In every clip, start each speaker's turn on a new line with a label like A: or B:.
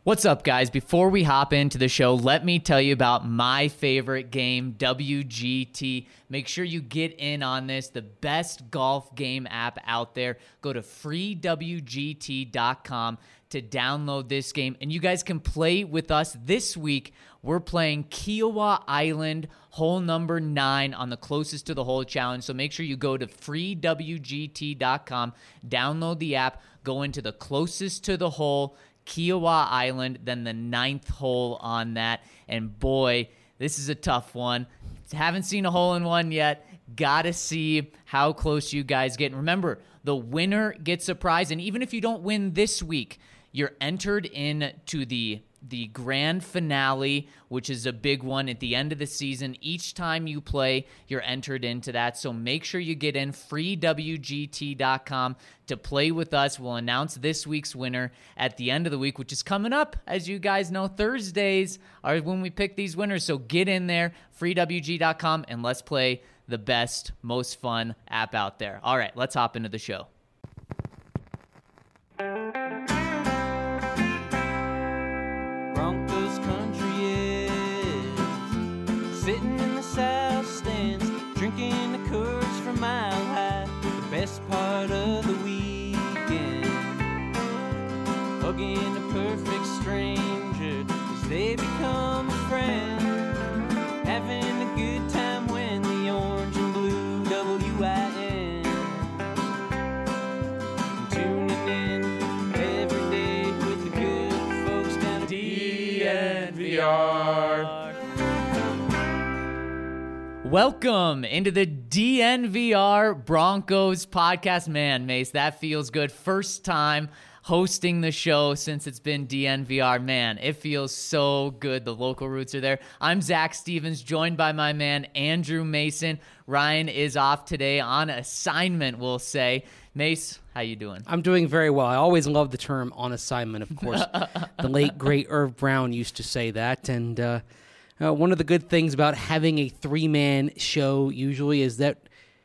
A: What's up, guys? Before we hop into the show, let me tell you about my favorite game, WGT. Make sure you get in on this, the best golf game app out there. Go to freewgt.com to download this game, and you guys can play with us this week. We're playing Kiowa Island, hole number 9 on the closest to the hole challenge. So make sure you go to freewgt.com, download the app, go into the closest to the hole, Kiowa Island, then the 9th hole on that. And boy, this is a tough one. Haven't seen a hole-in-one yet. Gotta see how close you guys get. And remember, the winner gets a prize. And even if you don't win this week, you're entered into the grand finale, which is a big one at the end of the season. Each time you play, you're entered into that. So make sure you get in freewgt.com to play with us. We'll announce this week's winner at the end of the week, which is coming up. As you guys know, Thursdays are when we pick these winners. So get in there, freewgt.com, and let's play the best, most fun app out there. All right, let's hop into the show.
B: Broncos country is sitting in the south stands, drinking the Coors from Mile High. The best part of the weekend, hugging a perfect stranger as they become a friend, having a good time when the orange and blue WIN, tuning in every day with the good folks down at DNVR.
A: Welcome into the DNVR Broncos podcast. Man, Mace, that feels good. First time hosting the show since it's been DNVR. Man, it feels so good. The local roots are there. I'm Zach Stevens, joined by my man Andrew Mason. Ryan is off today on assignment, we'll say. Mace, how you doing?
C: I'm doing very well. I always love the term on assignment, of course. The late, great Irv Brown used to say that. And one of the good things about having a three-man show usually is that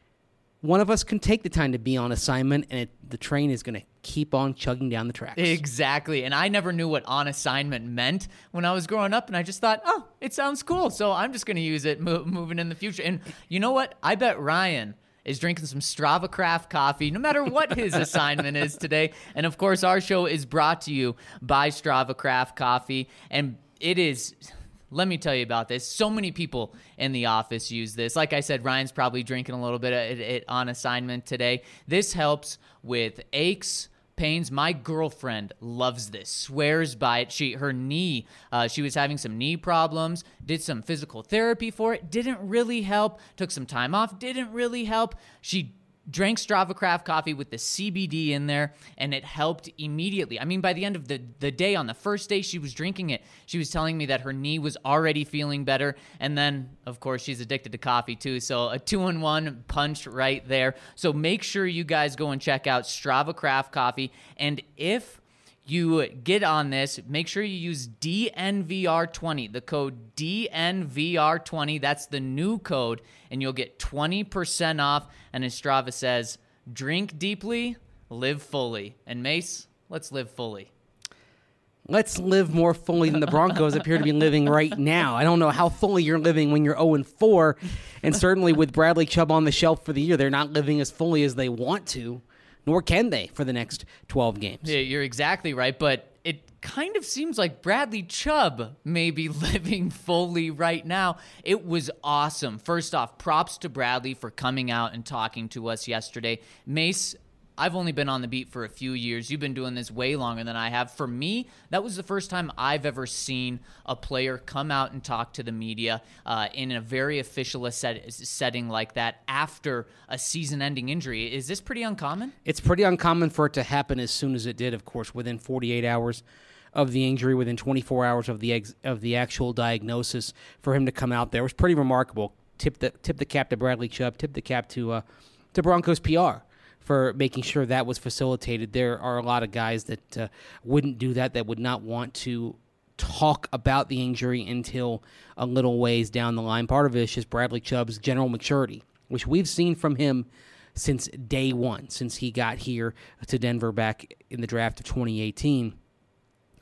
C: one of us can take the time to be on assignment, and the train is going to keep on chugging down the tracks.
A: Exactly. And I never knew what on assignment meant when I was growing up, and I just thought, oh, it sounds cool, so I'm just going to use it moving in the future. And you know what? I bet Ryan is drinking some Strava Craft coffee, no matter what his assignment is today. And, of course, our show is brought to you by Strava Craft Coffee, and it is... Let me tell you about this. So many people in the office use this. Like I said, Ryan's probably drinking a little bit of it on assignment today. This helps with aches, pains. My girlfriend loves this, swears by it. Her knee, she was having some knee problems, did some physical therapy for it, didn't really help, took some time off, didn't really help. She drank Strava Craft coffee with the CBD in there, and it helped immediately. I mean, by the end of the day, on the first day she was drinking it, she was telling me that her knee was already feeling better. And then, of course, she's addicted to coffee too. So a 2-in-1 punch right there. So make sure you guys go and check out Strava Craft Coffee. And if you get on this, make sure you use DNVR20, the code DNVR20. That's the new code, and you'll get 20% off. And as Strava says, drink deeply, live fully. And Mace, let's live fully.
C: Let's live more fully than the Broncos appear to be living right now. I don't know how fully you're living when you're 0-4, and certainly with Bradley Chubb on the shelf for the year, they're not living as fully as they want to, nor can they for the next 12 games.
A: Yeah, you're exactly right, but it kind of seems like Bradley Chubb may be living fully right now. It was awesome. First off, props to Bradley for coming out and talking to us yesterday. Mace, I've only been on the beat for a few years. You've been doing this way longer than I have. For me, that was the first time I've ever seen a player come out and talk to the media in a very official setting like that after a season-ending injury. Is this pretty uncommon?
C: It's pretty uncommon for it to happen as soon as it did, of course, within 48 hours of the injury, within 24 hours of the actual diagnosis. For him to come out there, it was pretty remarkable. Tip the cap to Bradley Chubb, tip the cap to Broncos PR for making sure that was facilitated. There are a lot of guys that wouldn't do that would not want to talk about the injury until a little ways down the line. Part of it is just Bradley Chubb's general maturity, which we've seen from him since day one, since he got here to Denver back in the draft of 2018.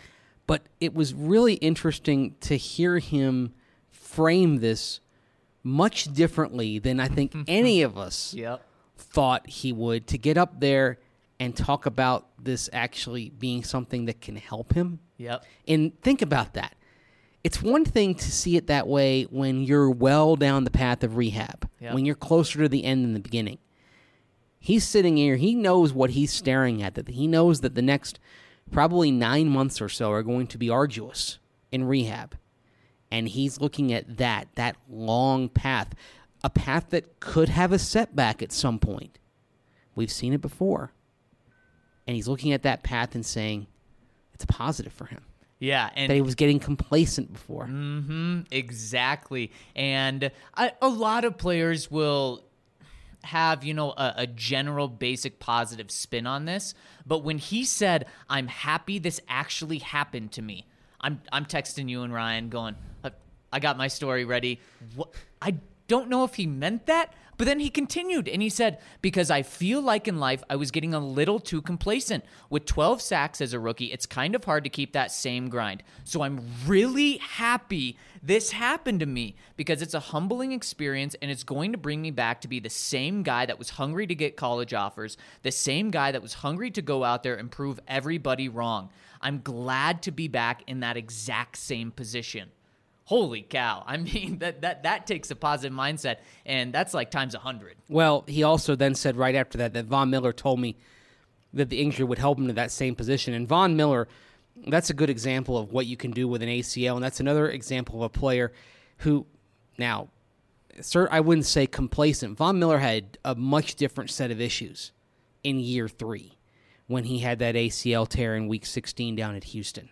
C: But it was really interesting to hear him frame this much differently than I think any of us
A: Yep.
C: thought he would, to get up there and talk about this actually being something that can help him.
A: Yep.
C: And think about that. It's one thing to see it that way when you're well down the path of rehab,
A: Yep.
C: when you're closer to the end than the beginning. He's sitting here. He knows what he's staring at. That he knows that the next probably 9 months or so are going to be arduous in rehab. And he's looking at that long path, a path that could have a setback at some point. We've seen it before. And he's looking at that path and saying, it's a positive for him.
A: Yeah,
C: That he was getting complacent before.
A: exactly. And a lot of players will have, a general basic positive spin on this. But when he said, I'm happy this actually happened to me, I'm texting you and Ryan going, I got my story ready. What? I don't know if he meant that, but then he continued and he said, because I feel like in life I was getting a little too complacent. With 12 sacks as a rookie, it's kind of hard to keep that same grind. So I'm really happy this happened to me because it's a humbling experience and it's going to bring me back to be the same guy that was hungry to get college offers, the same guy that was hungry to go out there and prove everybody wrong. I'm glad to be back in that exact same position. Holy cow. I mean, that takes a positive mindset, and that's like times 100.
C: Well, he also then said right after that Von Miller told me that the injury would help him to that same position. And Von Miller, that's a good example of what you can do with an ACL, and that's another example of a player who, now, sir, I wouldn't say complacent. Von Miller had a much different set of issues in year 3 when he had that ACL tear in week 16 down at Houston.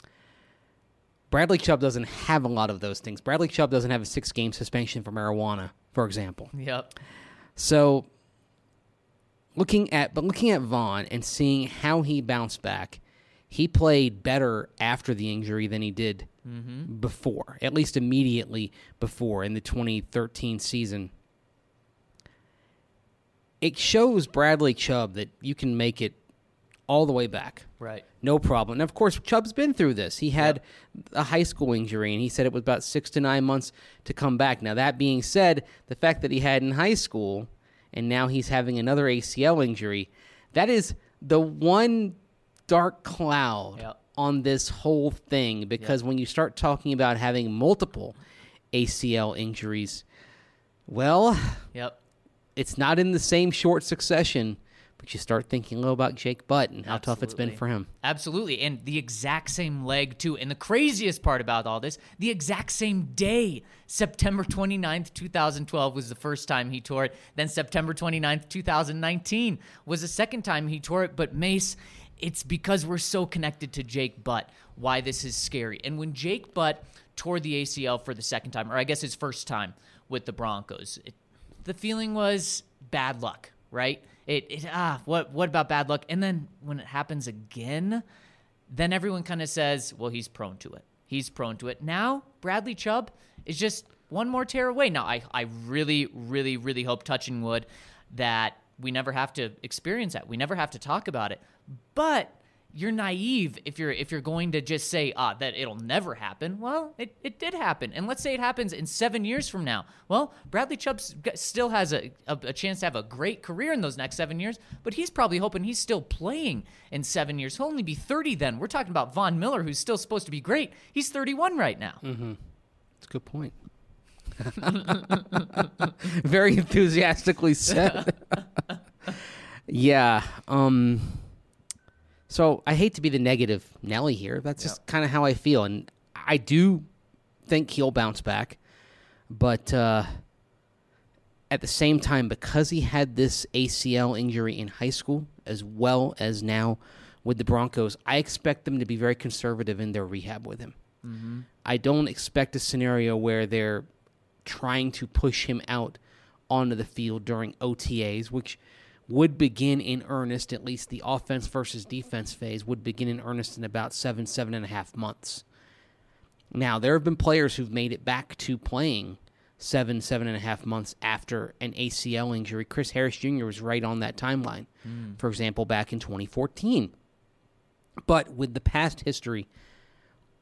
C: Bradley Chubb doesn't have a lot of those things. Bradley Chubb doesn't have a 6-game suspension for marijuana, for example.
A: Yep.
C: So looking at Von and seeing how he bounced back, he played better after the injury than he did before, at least immediately before in the 2013 season. It shows Bradley Chubb that you can make it all the way back.
A: Right.
C: No problem. And, of course, Chubb's been through this. He had a high school injury, and he said it was about 6 to 9 months to come back. Now, that being said, the fact that he had in high school and now he's having another ACL injury, that is the one dark cloud on this whole thing, because when you start talking about having multiple ACL injuries, well, it's not in the same short succession. But you start thinking a little about Jake Butt and how tough it's been for him.
A: Absolutely. And the exact same leg, too. And the craziest part about all this, the exact same day, September 29th, 2012 was the first time he tore it. Then September 29th, 2019 was the second time he tore it. But Mace, it's because we're so connected to Jake Butt why this is scary. And when Jake Butt tore the ACL for the second time, or I guess his first time with the Broncos, the feeling was bad luck, right? What about bad luck? And then when it happens again, then everyone kind of says, well, he's prone to it. He's prone to it. Now, Bradley Chubb is just one more tear away. Now, I really, really, really hope, touching wood, that we never have to experience that. We never have to talk about it. But you're naive if you're going to just say that it'll never happen. Well, it did happen. And let's say it happens in 7 years from now. Well, Bradley Chubb still has a chance to have a great career in those next 7 years, but he's probably hoping he's still playing in 7 years. He'll only be 30 then. We're talking about Von Miller, who's still supposed to be great. He's 31 right now.
C: Mm-hmm. That's a good point. Very enthusiastically said. Yeah. So I hate to be the negative Nelly here. That's just kind of how I feel. And I do think he'll bounce back. But at the same time, because he had this ACL injury in high school as well as now with the Broncos, I expect them to be very conservative in their rehab with him. Mm-hmm. I don't expect a scenario where they're trying to push him out onto the field during OTAs, which would begin in earnest, at least the offense versus defense phase would begin in earnest in about 7.5 months. Now, there have been players who've made it back to playing 7.5 months after an ACL injury. Chris Harris Jr. was right on that timeline, for example, back in 2014. But with the past history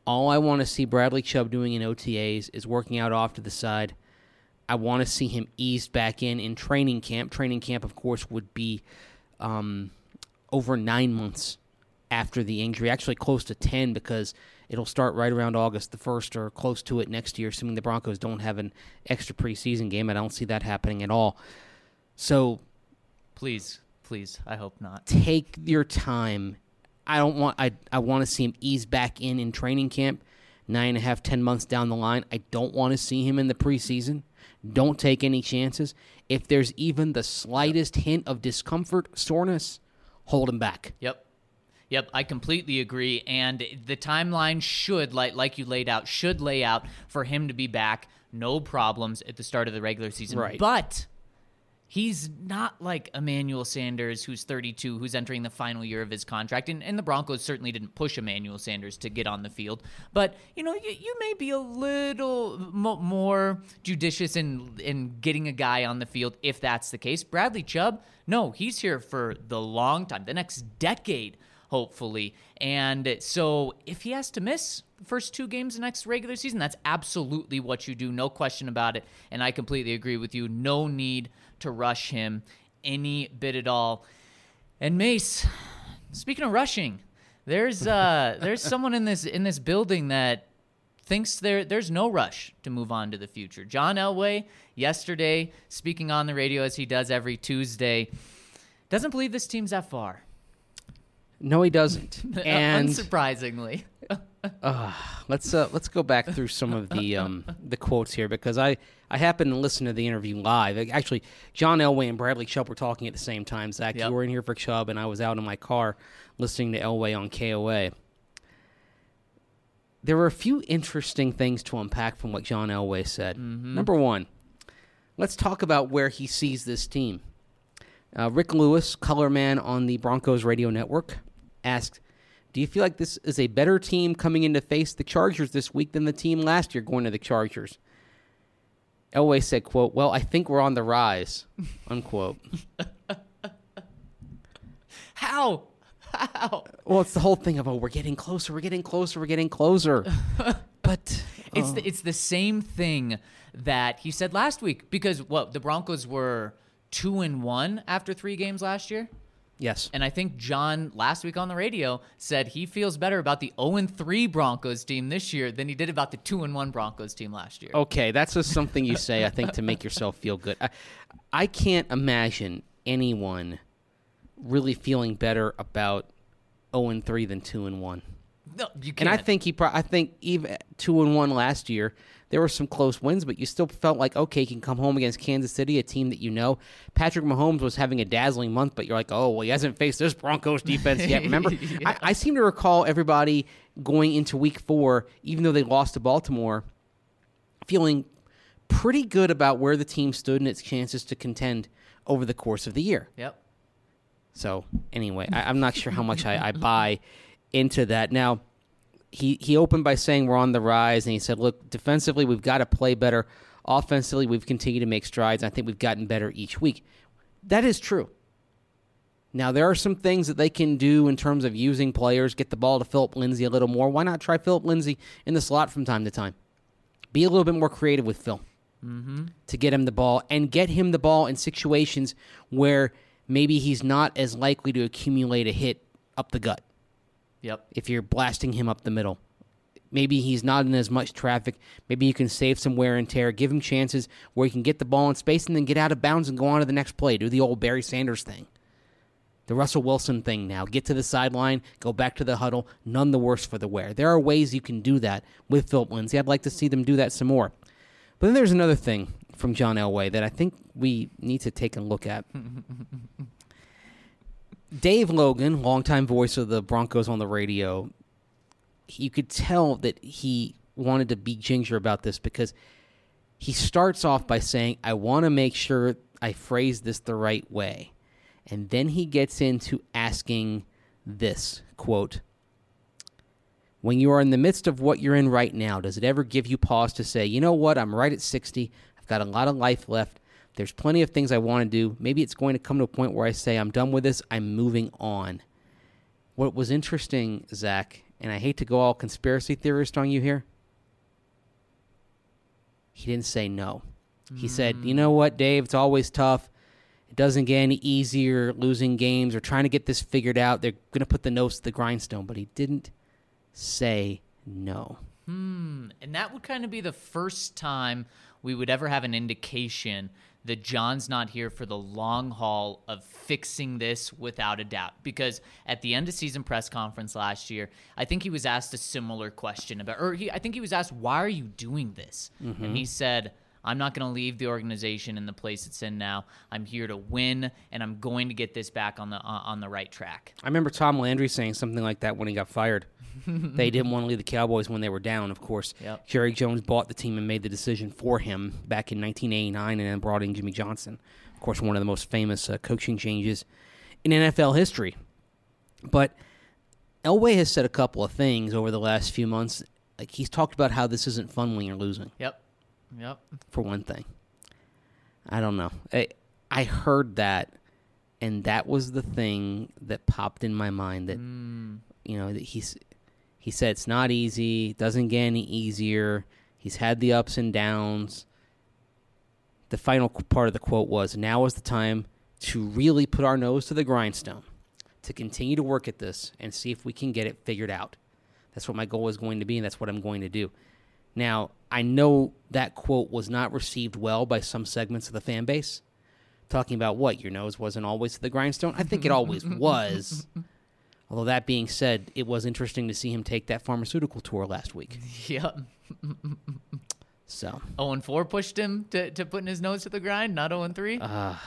C: All I want to see Bradley Chubb doing in OTAs is working out off to the side. I want to see him eased back in training camp. Training camp, of course, would be over 9 months after the injury, actually close to 10 because it'll start right around August the 1st or close to it next year, assuming the Broncos don't have an extra preseason game. I don't see that happening at all. So
A: Please, I hope not.
C: take your time. I want to see him ease back in training camp 9.5, 10 months down the line. I don't want to see him in the preseason. Don't take any chances. If there's even the slightest hint of discomfort, soreness, hold him back.
A: Yep, I completely agree. And the timeline should, like you laid out, should lay out for him to be back, no problems at the start of the regular season.
C: Right.
A: But he's not like Emmanuel Sanders, who's 32, who's entering the final year of his contract. And the Broncos certainly didn't push Emmanuel Sanders to get on the field. But, you may be a little more judicious in getting a guy on the field if that's the case. Bradley Chubb, no, he's here for the long time, the next decade, hopefully. And so if he has to miss the first 2 games of next regular season, that's absolutely what you do. No question about it. And I completely agree with you. No need to rush him any bit at all. And Mace, speaking of rushing, there's someone in this building that thinks there's no rush to move on to the future. John Elway, yesterday, speaking on the radio as he does every Tuesday, doesn't believe this team's that far.
C: No, he doesn't. And
A: unsurprisingly.
C: let's go back through some of the quotes here because I happened to listen to the interview live. Actually, John Elway and Bradley Chubb were talking at the same time. Zach,
A: Yep.
C: You were in here for Chubb, and I was out in my car listening to Elway on KOA. There were a few interesting things to unpack from what John Elway said. Mm-hmm. Number one, let's talk about where he sees this team. Rick Lewis, color man on the Broncos radio network, asked, do you feel like this is a better team coming in to face the Chargers this week than the team last year going to the Chargers? Elway said, quote, well, I think we're on the rise, unquote.
A: How?
C: Well, it's the whole thing of, we're getting closer. But
A: It's the same thing that he said last week because, the Broncos were 2-1 after 3 games last year?
C: yes.
A: And I think John, last week on the radio, said he feels better about the 0-3 Broncos team this year than he did about the 2-1 Broncos team last year.
C: Okay, that's just something you say, I think, to make yourself feel good. I can't imagine anyone really feeling better about 0-3 than 2-1.
A: No, you can't.
C: And I think I think even 2-1 last year, there were some close wins, but you still felt like, okay, you can come home against Kansas City, a team that you know. Patrick Mahomes was having a dazzling month, but you're like, oh, well, he hasn't faced this Broncos defense yet. Remember,
A: Yeah.
C: I seem to recall everybody going into Week 4, even though they lost to Baltimore, feeling pretty good about where the team stood and its chances to contend over the course of the year.
A: Yep.
C: So anyway, I'm not sure how much I buy into that. Now, he opened by saying we're on the rise, and he said, look, defensively, we've got to play better. Offensively, we've continued to make strides. I think we've gotten better each week. That is true. Now, there are some things that they can do in terms of using players, get the ball to Philip Lindsay a little more. Why not try Philip Lindsay in the slot from time to time? Be a little bit more creative with Phil to get him the ball, and get him the ball in situations where maybe he's not as likely to accumulate a hit up the gut.
A: Yep.
C: If you're blasting him up the middle. Maybe he's not in as much traffic. Maybe you can save some wear and tear. Give him chances where he can get the ball in space and then get out of bounds and go on to the next play. Do the old Barry Sanders thing. The Russell Wilson thing now. Get to the sideline, go back to the huddle. None the worse for the wear. There are ways you can do that with Philip Lindsay. I'd like to see them do that some more. But then there's another thing from John Elway that I think we need to take a look at. Dave Logan, longtime voice of the Broncos on the radio, you could tell that he wanted to be ginger about this because he starts off by saying, I want to make sure I phrase this the right way. And then he gets into asking this, quote, when you are in the midst of what you're in right now, does it ever give you pause to say, you know what, I'm right at 60, I've got a lot of life left, there's plenty of things I want to do, maybe it's going to come to a point where I say, I'm done with this, I'm moving on. What was interesting, Zach, and I hate to go all conspiracy theorist on you here, he didn't say no. He said, you know what, Dave, it's always tough. It doesn't get any easier losing games or trying to get this figured out. They're going to put the nose to the grindstone, but he didn't say no.
A: And that would kind of be the first time we would ever have an indication that John's not here for the long haul of fixing this without a doubt. Because at the end of season press conference last year, I think he was asked a similar question about, I think he was asked, why are you doing this? And he said, I'm not going to leave the organization in the place it's in now. I'm here to win, and I'm going to get this back on the right track.
C: I remember Tom Landry saying something like that when he got fired. They didn't want to leave the Cowboys when they were down, of course.
A: Yep.
C: Jerry Jones bought the team and made the decision for him back in 1989 and then brought in Jimmy Johnson. Of course, one of the most famous coaching changes in NFL history. But Elway has said a couple of things over the last few months. Like, he's talked about how this isn't fun when you're losing.
A: Yep.
C: For one thing. I don't know. I heard that, and that was the thing that popped in my mind that, that he said it's not easy, it doesn't get any easier, he's had the ups and downs. The final part of the quote was, now is the time to really put our nose to the grindstone, to continue to work at this and see if we can get it figured out. That's what my goal is going to be, and that's what I'm going to do. Now, I know that quote was not received well by some segments of the fan base, talking about what, your nose wasn't always to the grindstone? I think it always was. Although that being said, it was interesting to see him take that pharmaceutical tour last week.
A: Yep.
C: So
A: 0-4 pushed him to putting his nose to the grind, not 0-3?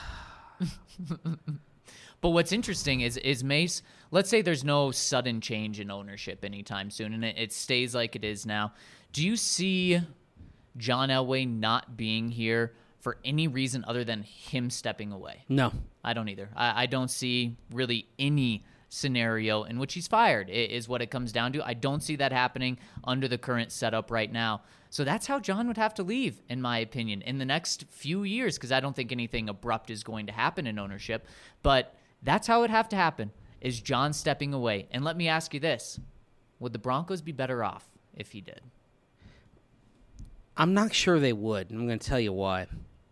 A: But what's interesting is Mace, let's say there's no sudden change in ownership anytime soon, and it stays like it is now. Do you see John Elway not being here for any reason other than him stepping away?
C: No.
A: I don't either. I don't see really any scenario in which he's fired, is what it comes down to. I don't see that happening under the current setup right now. So that's how John would have to leave, in my opinion, in the next few years, because I don't think anything abrupt is going to happen in ownership. But that's how it would have to happen, is John stepping away. And let me ask you this. Would the Broncos be better off if he did?
C: I'm not sure they would, and I'm going to tell you why.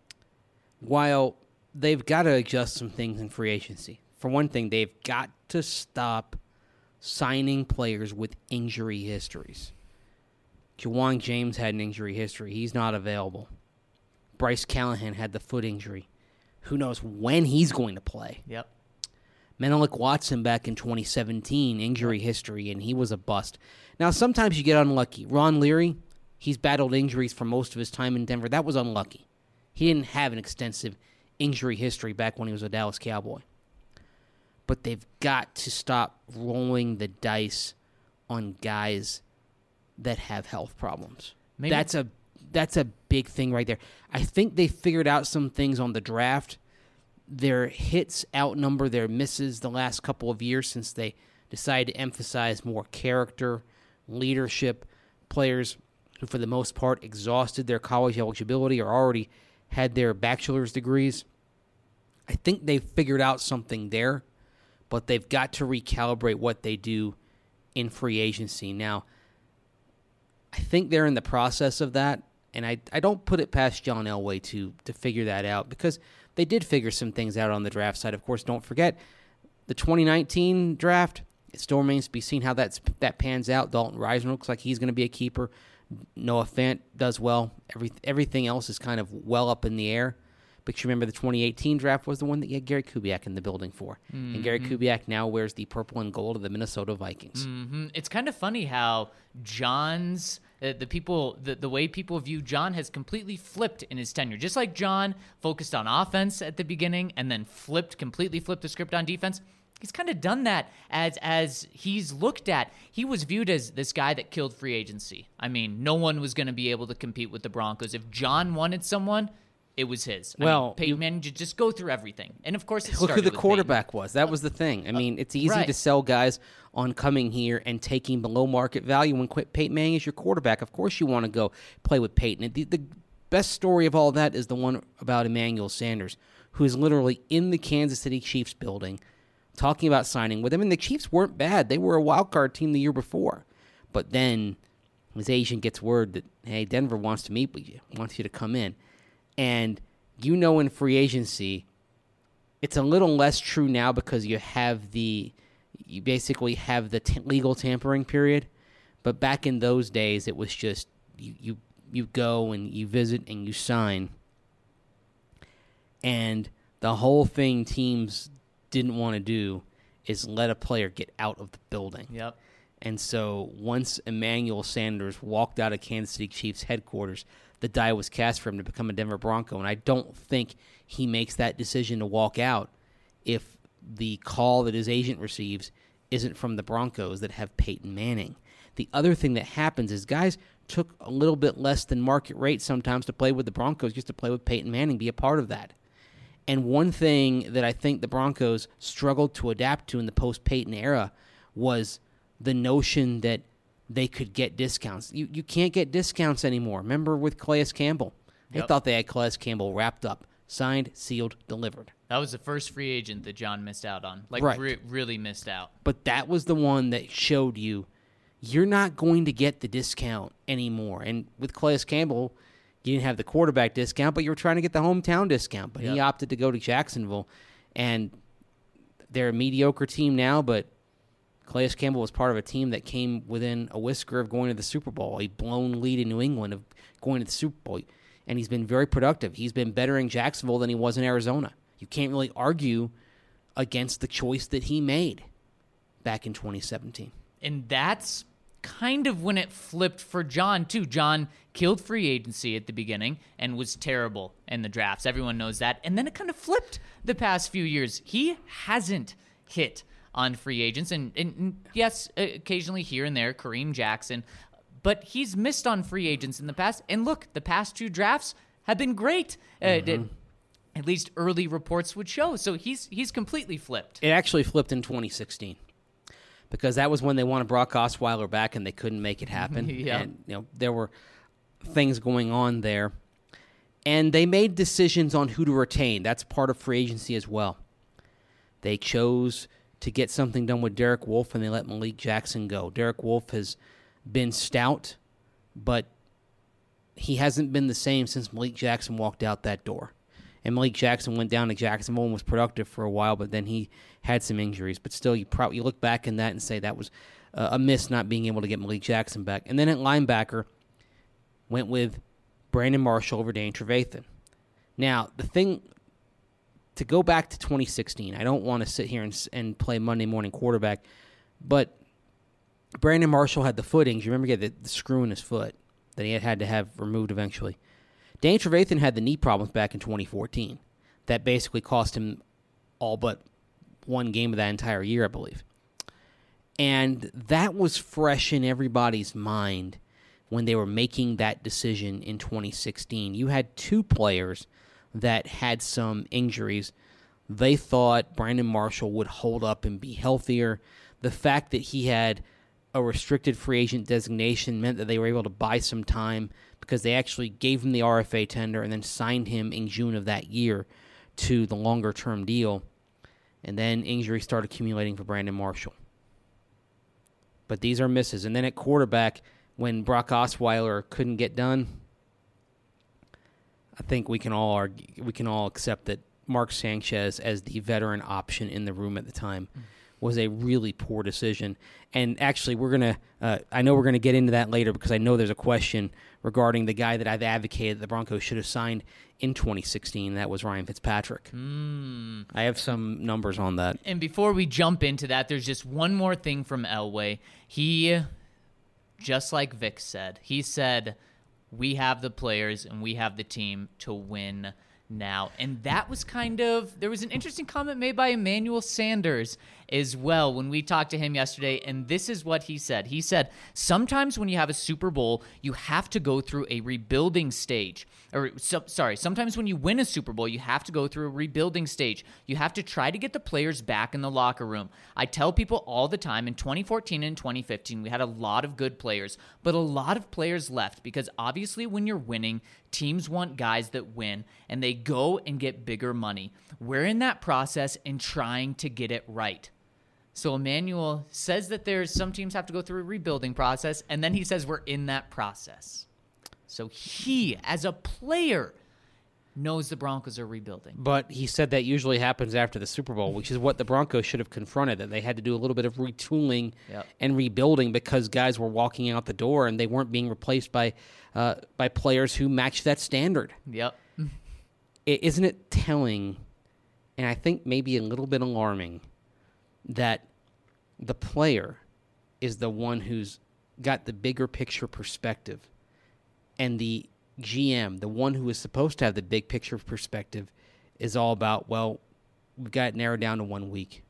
C: While they've got to adjust some things in free agency. For one thing, they've got to stop signing players with injury histories. Jawan James had an injury history. He's not available. Bryce Callahan had the foot injury. Who knows when he's going to play?
A: Yep.
C: Menelik Watson back in 2017, injury history, and he was a bust. Now, sometimes you get unlucky. Ron Leary, he's battled injuries for most of his time in Denver. That was unlucky. He didn't have an extensive injury history back when he was a Dallas Cowboy. But they've got to stop rolling the dice on guys that have health problems.
A: Maybe.
C: That's a big thing right there. I think they figured out some things on the draft. Their hits outnumber their misses the last couple of years since they decided to emphasize more character, leadership, players who for the most part exhausted their college eligibility or already had their bachelor's degrees. I think they've figured out something there, but they've got to recalibrate what they do in free agency. Now, I think they're in the process of that, and I don't put it past John Elway to figure that out because they did figure some things out on the draft side. Of course, don't forget the 2019 draft. It still remains to be seen how that pans out. Dalton Risner looks like he's going to be a keeper. Noah Fant does well. Everything else is kind of well up in the air. But you remember the 2018 draft was the one that you had Gary Kubiak in the building for. Mm-hmm. And Gary Kubiak now wears the purple and gold of the Minnesota Vikings.
A: Mm-hmm. It's kind of funny how John's the way people view John has completely flipped in his tenure. Just like John focused on offense at the beginning and then completely flipped the script on defense. He's kind of done that as he's looked at. He was viewed as this guy that killed free agency. I mean, no one was going to be able to compete with the Broncos. If John wanted someone, it was his. Peyton Manning just go through everything. And, of course,
C: look who the quarterback was. That was the thing. I mean, it's easy to sell guys on coming here and taking below market value when Peyton Manning is your quarterback. Of course you want to go play with Peyton. The best story of all that is the one about Emmanuel Sanders, who is literally in the Kansas City Chiefs building talking about signing with him. And the Chiefs weren't bad. They were a wild card team the year before. But then his agent gets word that, hey, Denver wants to meet with you, wants you to come in. And in free agency, it's a little less true now because you basically have the legal tampering period. But back in those days, it was just you go and you visit and you sign. And the whole thing teams didn't want to do is let a player get out of the building.
A: Yep.
C: And so once Emmanuel Sanders walked out of Kansas City Chiefs headquarters, the die was cast for him to become a Denver Bronco. And I don't think he makes that decision to walk out if the call that his agent receives isn't from the Broncos that have Peyton Manning. The other thing that happens is guys took a little bit less than market rate sometimes to play with the Broncos, just to play with Peyton Manning, be a part of that. And one thing that I think the Broncos struggled to adapt to in the post-Peyton era was the notion that they could get discounts. You can't get discounts anymore. Remember with Calais Campbell? They thought they had Calais Campbell wrapped up, signed, sealed, delivered.
A: That was the first free agent that John missed out on.
C: Right.
A: Really missed out.
C: But that was the one that showed you're not going to get the discount anymore. And with Calais Campbell, you didn't have the quarterback discount, but you were trying to get the hometown discount. But he opted to go to Jacksonville. And they're a mediocre team now, but Calais Campbell was part of a team that came within a whisker of going to the Super Bowl, a blown lead in New England of going to the Super Bowl. And he's been very productive. He's been better in Jacksonville than he was in Arizona. You can't really argue against the choice that he made back in 2017.
A: And that's kind of when it flipped for John, too. John killed free agency at the beginning and was terrible in the drafts. Everyone knows that. And then it kind of flipped the past few years. He hasn't hit on free agents. And yes, occasionally here and there, Kareem Jackson. But he's missed on free agents in the past. And look, the past 2 drafts have been great. At least early reports would show. So he's completely flipped.
C: It actually flipped in 2016. Because that was when they wanted Brock Osweiler back and they couldn't make it happen. And there were things going on there. And they made decisions on who to retain. That's part of free agency as well. They chose to get something done with Derek Wolfe and they let Malik Jackson go. Derek Wolfe has been stout, but he hasn't been the same since Malik Jackson walked out that door. And Malik Jackson went down to Jacksonville and was productive for a while, but then he had some injuries. But still, you look back in that and say that was a miss not being able to get Malik Jackson back. And then at linebacker, went with Brandon Marshall over Danny Trevathan. Now, the thing, to go back to 2016, I don't want to sit here and play Monday morning quarterback, but Brandon Marshall had the foot injury. Remember, he had the screw in his foot that he had to have removed eventually. Danny Trevathan had the knee problems back in 2014. That basically cost him all but one game of that entire year, I believe. And that was fresh in everybody's mind when they were making that decision in 2016. You had 2 players that had some injuries. They thought Brandon Marshall would hold up and be healthier. The fact that he had a restricted free agent designation meant that they were able to buy some time because they actually gave him the RFA tender and then signed him in June of that year to the longer-term deal. And then injuries started accumulating for Brandon Marshall. But these are misses. And then at quarterback, when Brock Osweiler couldn't get done, I think we can all accept that Mark Sanchez, as the veteran option in the room at the time, was a really poor decision. And actually, I know we're gonna get into that later because I know there's a question regarding the guy that I've advocated the Broncos should have signed in 2016. That was Ryan Fitzpatrick. I have some numbers on that.
A: And before we jump into that, there's just one more thing from Elway. He, just like Vic said, he said, we have the players and we have the team to win now. And that was there was an interesting comment made by Emmanuel Sanders as well when we talked to him yesterday, and this is what he said. He said, sometimes when you have a Super Bowl, you have to go through a rebuilding stage. Sometimes when you win a Super Bowl, you have to go through a rebuilding stage. You have to try to get the players back in the locker room. I tell people all the time, in 2014 and 2015, we had a lot of good players, but a lot of players left because obviously when you're winning, teams want guys that win, and they go and get bigger money. We're in that process and trying to get it right. So Emmanuel says that there's some teams have to go through a rebuilding process, and then he says we're in that process. So he, as a player, knows the Broncos are rebuilding.
C: But he said that usually happens after the Super Bowl, which is what the Broncos should have confronted, that they had to do a little bit of retooling and rebuilding because guys were walking out the door and they weren't being replaced by players who matched that standard.
A: Yep.
C: Isn't it telling, and I think maybe a little bit alarming, that the player is the one who's got the bigger picture perspective, and the GM, the one who is supposed to have the big picture perspective, is all about, well, we've got it narrowed down to 1 week.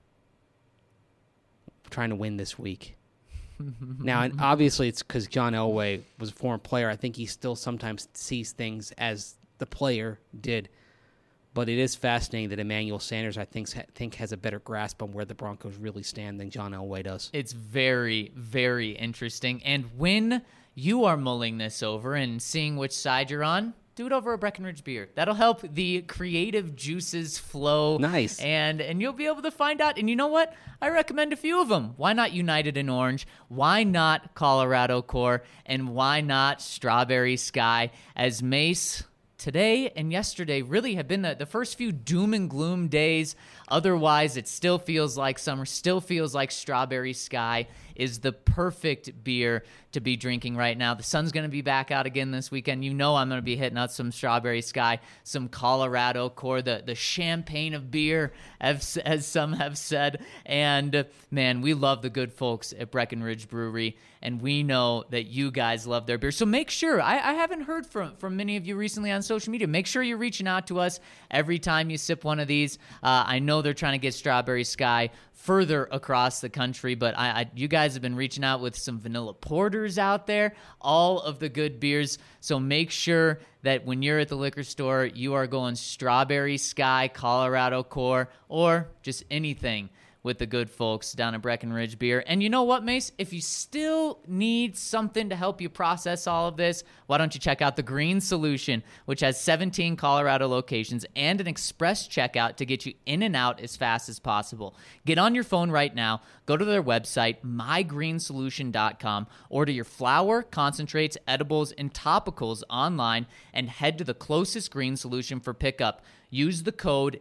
C: We're trying to win this week. Now, and obviously it's because John Elway was a former player. I think he still sometimes sees things as the player did. But it is fascinating that Emmanuel Sanders, I think has a better grasp on where the Broncos really stand than John Elway does.
A: It's very, very interesting. And when you are mulling this over and seeing which side you're on, do it over a Breckenridge beer. That'll help the creative juices flow.
C: Nice.
A: And you'll be able to find out. And you know what? I recommend a few of them. Why not United in Orange? Why not Colorado Core? And why not Strawberry Sky? As Mace today and yesterday really have been the first few doom and gloom days. Otherwise, it still feels like summer, still feels like Strawberry Sky is the perfect beer to be drinking right now. The sun's going to be back out again this weekend. You know I'm going to be hitting out some Strawberry Sky, some Colorado Core, the champagne of beer, as some have said. And, man, we love the good folks at Breckenridge Brewery, and we know that you guys love their beer. So make sure, I haven't heard from many of you recently on social media. Make sure you're reaching out to us every time you sip one of these. I know they're trying to get Strawberry Sky further across the country, but you guys have been reaching out with some vanilla porters out there, all of the good beers. So make sure that when you're at the liquor store, you are going Strawberry Sky, Colorado Core, or just anything with the good folks down at Breckenridge Beer. And you know what, Mace? If you still need something to help you process all of this, why don't you check out the Green Solution, which has 17 Colorado locations and an express checkout to get you in and out as fast as possible. Get on your phone right now, go to their website, mygreensolution.com, order your flour, concentrates, edibles, and topicals online, and head to the closest Green Solution for pickup. Use the code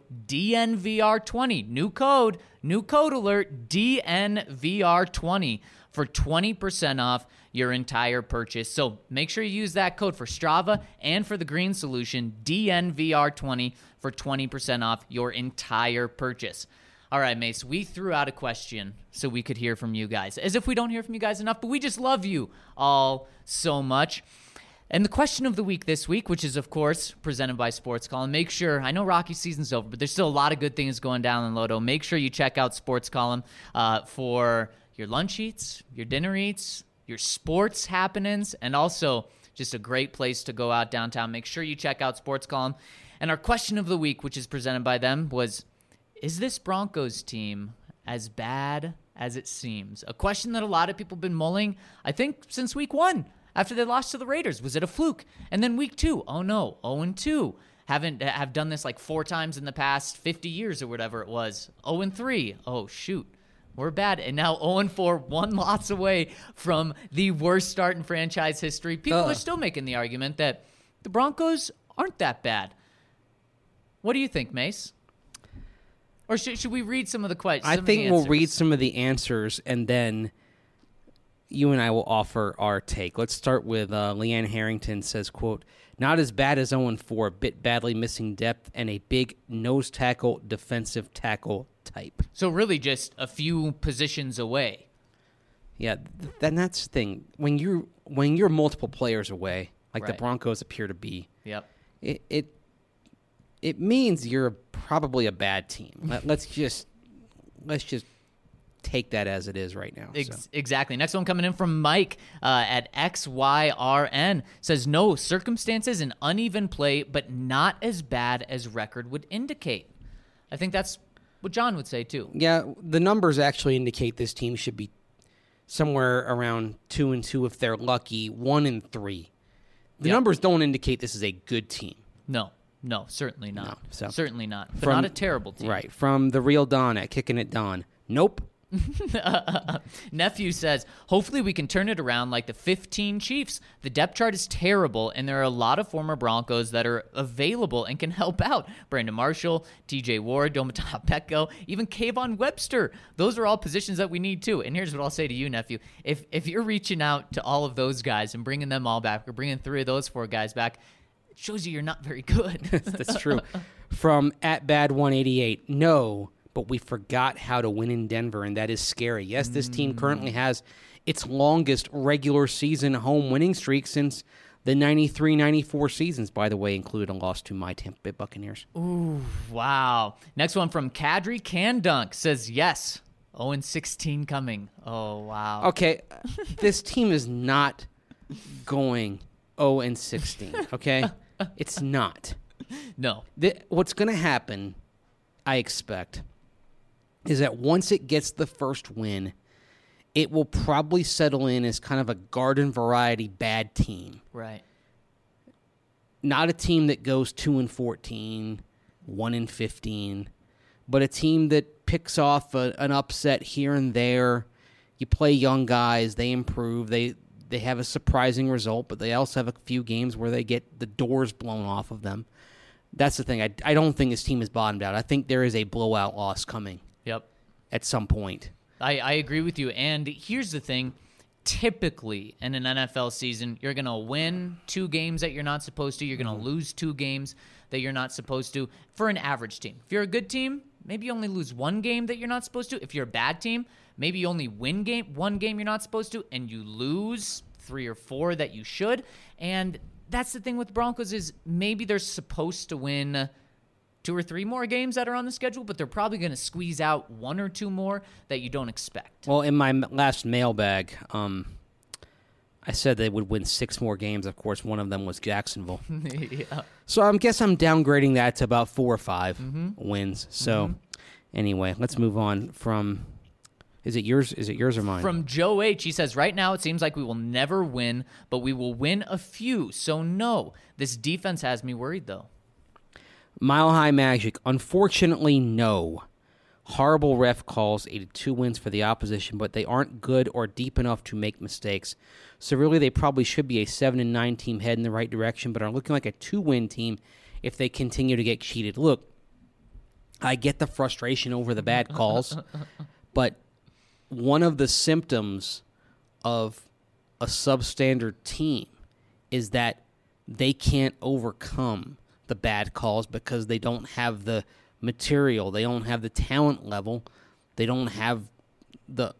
A: DNVR20. New code alert, DNVR20 for 20% off your entire purchase. So make sure you use that code for Strava and for the Green Solution, DNVR20 for 20% off your entire purchase. All right, Mace, we threw out a question so we could hear from you guys. As if we don't hear from you guys enough, but we just love you all so much. And the question of the week this week, which is, of course, presented by Sports Column. Make sure, I know Rocky season's over, but there's still a lot of good things going down in Lodo. Make sure you check out Sports Column for your lunch eats, your dinner eats, your sports happenings, and also just a great place to go out downtown. Make sure you check out Sports Column. And our question of the week, which is presented by them, was, is this Broncos team as bad as it seems? A question that a lot of people have been mulling, I think, since week 1. After they lost to the Raiders, was it a fluke? And then week 2, oh no, 0-2. Have done this like 4 times in the past 50 years or whatever it was. 0-3, oh shoot, we're bad. And now 0-4, 1 loss away from the worst start in franchise history. People are still making the argument that the Broncos aren't that bad. What do you think, Mace? Or should we read some of the questions?
C: I think we'll read some of the answers and then you and I will offer our take. Let's start with Leanne Harrington says, quote, not as bad as 0-4, a bit badly missing depth and a big nose tackle, defensive tackle type.
A: So really just a few positions away.
C: Yeah, then that's the thing. When you're multiple players away, like the
A: Right.
C: Broncos appear to be,
A: Yep.
C: it means you're probably a bad team. Let's just take that as it is right now.
A: Exactly. Next one coming in from Mike at XYRN says, no, circumstances and uneven play, but not as bad as record would indicate. I think that's what John would say too.
C: Yeah, the numbers actually indicate this team should be somewhere around 2-2 if they're lucky, 1-3. The numbers don't indicate this is a good team.
A: No, certainly not.
C: No, so
A: certainly not. But not a terrible team.
C: Right. From the real Don at Kicking It Don. Nope.
A: Nephew says, hopefully we can turn it around like the 15 Chiefs. The depth chart is terrible, and there are a lot of former Broncos that are available and can help out. Brandon Marshall, TJ Ward, Domata Petco, even Kayvon Webster. Those are all positions that we need too. And here's what I'll say to you, Nephew. If you're reaching out to all of those guys and bringing them all back, or bringing 3 of those 4 guys back, it shows you're not very good.
C: That's true. From @bad188, no, but we forgot how to win in Denver, and that is scary. Yes, this team currently has its longest regular season home winning streak since the 93-94 seasons, by the way, included a loss to my Tampa Bay Buccaneers.
A: Ooh, wow. Next one from Kadri Candunk says, yes, 0-16 coming. Oh, wow.
C: Okay, this team is not going 0-16, okay? It's not.
A: No.
C: What's going to happen, I expect, is that once it gets the first win, it will probably settle in as kind of a garden variety bad team.
A: Right.
C: Not a team that goes 2-14, 1-15, but a team that picks off an upset here and there. You play young guys, they improve, they have a surprising result, but they also have a few games where they get the doors blown off of them. That's the thing. I don't think this team is bottomed out. I think there is a blowout loss coming.
A: Yep.
C: At some point.
A: I agree with you. And here's the thing. Typically, in an NFL season, you're going to win 2 games that you're not supposed to. You're going to lose 2 games that you're not supposed to for an average team. If you're a good team, maybe you only lose 1 game that you're not supposed to. If you're a bad team, maybe you only win 1 game you're not supposed to, and you lose 3 or 4 that you should. And that's the thing with Broncos is maybe they're supposed to win 2 or 3 more games that are on the schedule, but they're probably going to squeeze out 1 or 2 more that you don't expect.
C: Well, in my last mailbag, I said they would win 6 more games. Of course, one of them was Jacksonville.
A: Yeah.
C: So I guess I'm downgrading that to about 4 or 5 wins. So anyway, let's move on from... Is it yours or mine?
A: From Joe H. He says, right now it seems like we will never win, but we will win a few. So no, this defense has me worried, though.
C: Mile High Magic, unfortunately, no. Horrible ref calls, 82 wins for the opposition, but they aren't good or deep enough to make mistakes. So really, they probably should be a 7-9 team head in the right direction, but are looking like a 2-win team if they continue to get cheated. Look, I get the frustration over the bad calls, but one of the symptoms of a substandard team is that they can't overcome the bad calls because they don't have the material, they don't have the talent level, they don't have the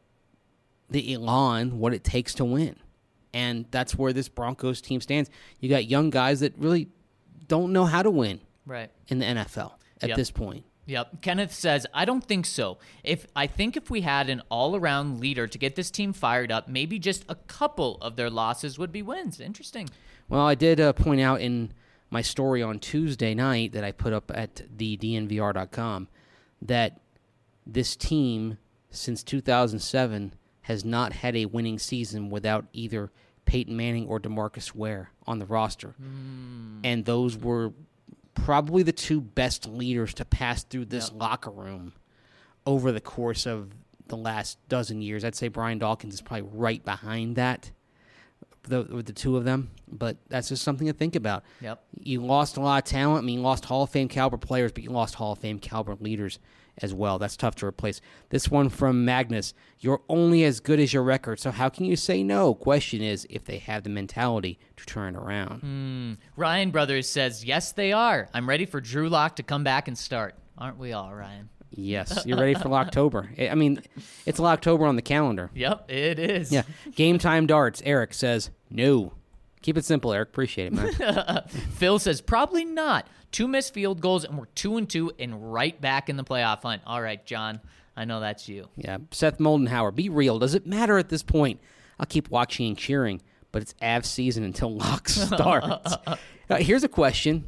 C: elan, what it takes to win. And that's where this Broncos team stands. You got young guys that really don't know how to win in the NFL at this point.
A: Yep. Kenneth says, I don't think so. I think if we had an all-around leader to get this team fired up, maybe just a couple of their losses would be wins. Interesting.
C: Well, I did point out in my story on Tuesday night that I put up at the DNVR.com that this team, since 2007, has not had a winning season without either Peyton Manning or DeMarcus Ware on the roster. And those were probably the 2 best leaders to pass through this locker room over the course of the last dozen years. I'd say Brian Dawkins is probably right behind that, with the 2 of them. But that's just something to think about.
A: Yep.
C: You lost a lot of talent. I mean, you lost Hall of Fame caliber players, but you lost Hall of Fame caliber leaders as well. That's tough to replace. This one from Magnus. You're only as good as your record, so how can you say no? Question is if they have the mentality to turn it around.
A: Ryan Brothers says, yes, they are. I'm ready for Drew Lock to come back and start. Aren't we all, Ryan?
C: Yes, you're ready for October. I mean, it's October on the calendar.
A: Yep, it is.
C: Yeah. Game Time Darts. Eric says, no. Keep it simple, Eric. Appreciate it, man.
A: Phil says, probably not. 2 missed field goals, and we're 2-2 and right back in the playoff hunt. All right, John. I know that's you.
C: Yeah. Seth Moldenhauer, be real. Does it matter at this point? I'll keep watching and cheering, but it's Avs season until Lock starts. Here's a question.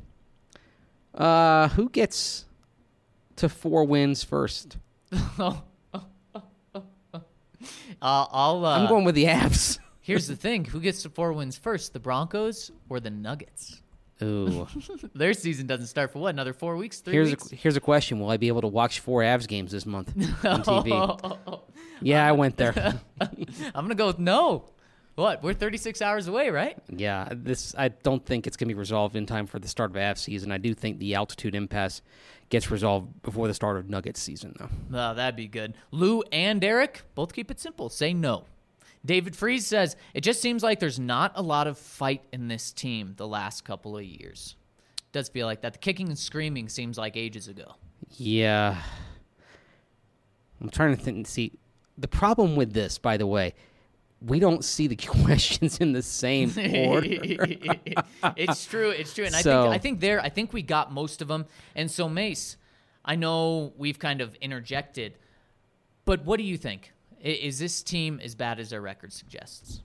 C: Who gets to 4 wins first? I'm going with the Avs.
A: Here's the thing. Who gets to 4 wins first, the Broncos or the Nuggets?
C: Ooh.
A: Their season doesn't start for what? Another 4 weeks? 3 weeks?
C: Here's a question. Will I be able to watch 4 Avs games this month on TV? Yeah, I went there.
A: I'm going to go with no. What? We're 36 hours away, right?
C: Yeah, I don't think it's going to be resolved in time for the start of Avs season. I do think the altitude impasse gets resolved before the start of Nuggets season, though.
A: Oh, that'd be good. Lou and Eric, both keep it simple. Say no. David Freeze says, it just seems like there's not a lot of fight in this team the last couple of years. Does feel like that. The kicking and screaming seems like ages ago.
C: Yeah. I'm trying to think. See, the problem with this, by the way, we don't see the questions in the same order.
A: It's true. And I think we got most of them. And so, Mace, I know we've kind of interjected, but what do you think? Is this team as bad as their record suggests?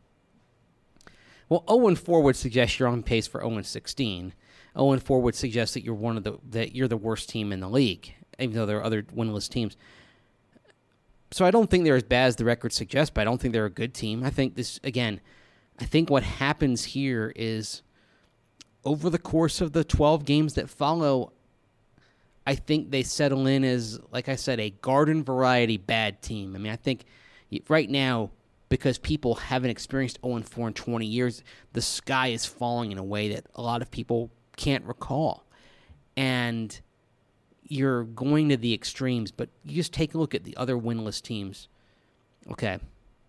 C: Well, 0-4 would suggest you're on pace for 0-16. 0-4 would suggest that you're the worst team in the league, even though there are other winless teams. So I don't think they're as bad as the record suggests, but I don't think they're a good team. I think what happens here is over the course of the 12 games that follow, I think they settle in as, like I said, a garden variety bad team. I mean, I think right now, because people haven't experienced 0-4 in 20 years, the sky is falling in a way that a lot of people can't recall. And you're going to the extremes, but you just take a look at the other winless teams. Okay.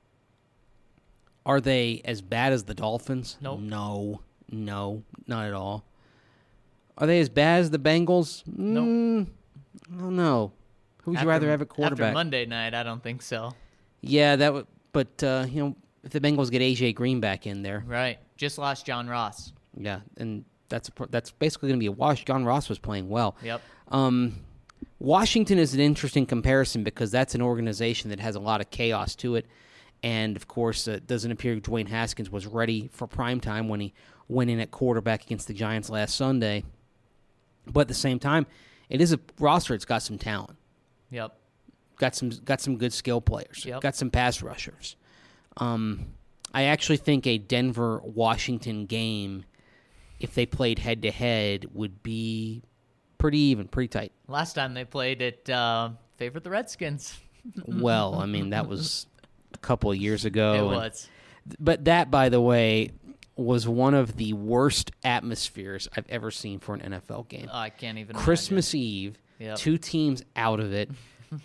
C: Are they as bad as the Dolphins?
A: Nope.
C: No, not at all. Are they as bad as the Bengals?
A: Nope.
C: I don't know. Who would you rather have at quarterback?
A: After Monday night, I don't think so.
C: Yeah, that would. But if the Bengals get AJ Green back in there,
A: Right. Just lost John Ross.
C: yeah, and that's basically going to be a wash. John Ross was playing well.
A: Yep.
C: Washington is an interesting comparison because that's an organization that has a lot of chaos to it. And, of course, it doesn't appear Dwayne Haskins was ready for prime time when he went in at quarterback against the Giants last Sunday. But at the same time, it is a roster that's got some talent.
A: Yep.
C: Got some good skill players.
A: Yep.
C: Got some pass rushers. I actually think a Denver-Washington game, if they played head-to-head, would be pretty even, pretty tight.
A: Last time they played, it favored the Redskins.
C: Well, I mean, that was a couple of years ago.
A: It was.
C: But that, by the way, was one of the worst atmospheres I've ever seen for an NFL game.
A: I can't even
C: Christmas Eve,
A: Yep.
C: 2 teams out of it,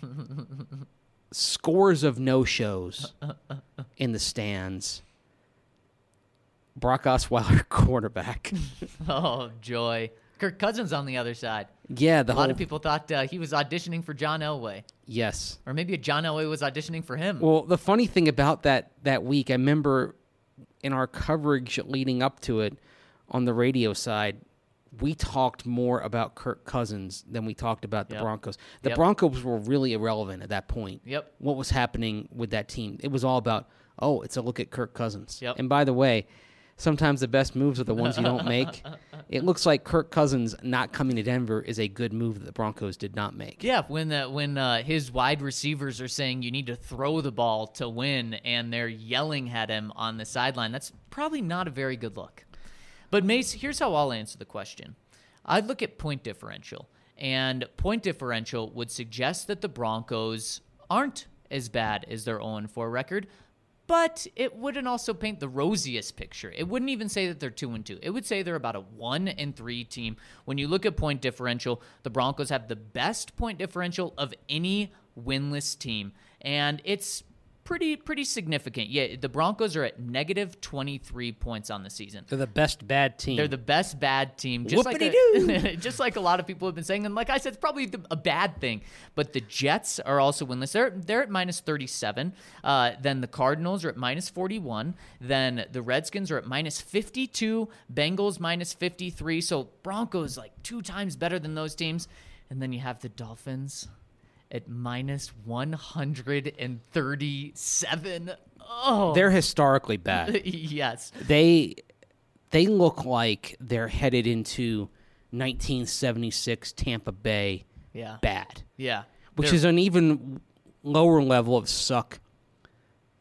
C: scores of no-shows in the stands. Brock Osweiler, quarterback.
A: Oh, joy. Kirk Cousins on the other side.
C: Yeah,
A: A lot of people thought he was auditioning for John Elway.
C: Yes.
A: Or maybe John Elway was auditioning for him.
C: Well, the funny thing about that week, I remember in our coverage leading up to it on the radio side, we talked more about Kirk Cousins than we talked about the
A: Yep.
C: Broncos. The
A: Yep.
C: Broncos were really irrelevant at that point.
A: Yep.
C: What was happening with that team? It was all about, it's a look at Kirk Cousins.
A: Yep.
C: And by the way, sometimes the best moves are the ones you don't make. It looks like Kirk Cousins not coming to Denver is a good move that the Broncos did not make.
A: Yeah, when his wide receivers are saying you need to throw the ball to win, and they're yelling at him on the sideline, that's probably not a very good look. But Mace, here's how I'll answer the question. I'd look at point differential, and point differential would suggest that the Broncos aren't as bad as their 0-4 record, but it wouldn't also paint the rosiest picture. It wouldn't even say that they're 2-2. It would say they're about a 1-3 team. When you look at point differential, the Broncos have the best point differential of any winless team, and it's pretty significant. Yeah, the Broncos are at negative 23 points on the season.
C: They're the best bad team.
A: They're the best bad team. Just just like a lot of people have been saying. And like I said, it's probably a bad thing. But the Jets are also winless. They're at minus 37. Then the Cardinals are at minus 41. Then the Redskins are at minus 52. Bengals minus 53. So Broncos like 2 times better than those teams. And then you have the Dolphins at minus 137. Oh,
C: They're historically bad.
A: yes.
C: They look like they're headed into 1976 Tampa Bay
A: Yeah.
C: bad,
A: Yeah.
C: which
A: They're-
C: is an even lower level of suck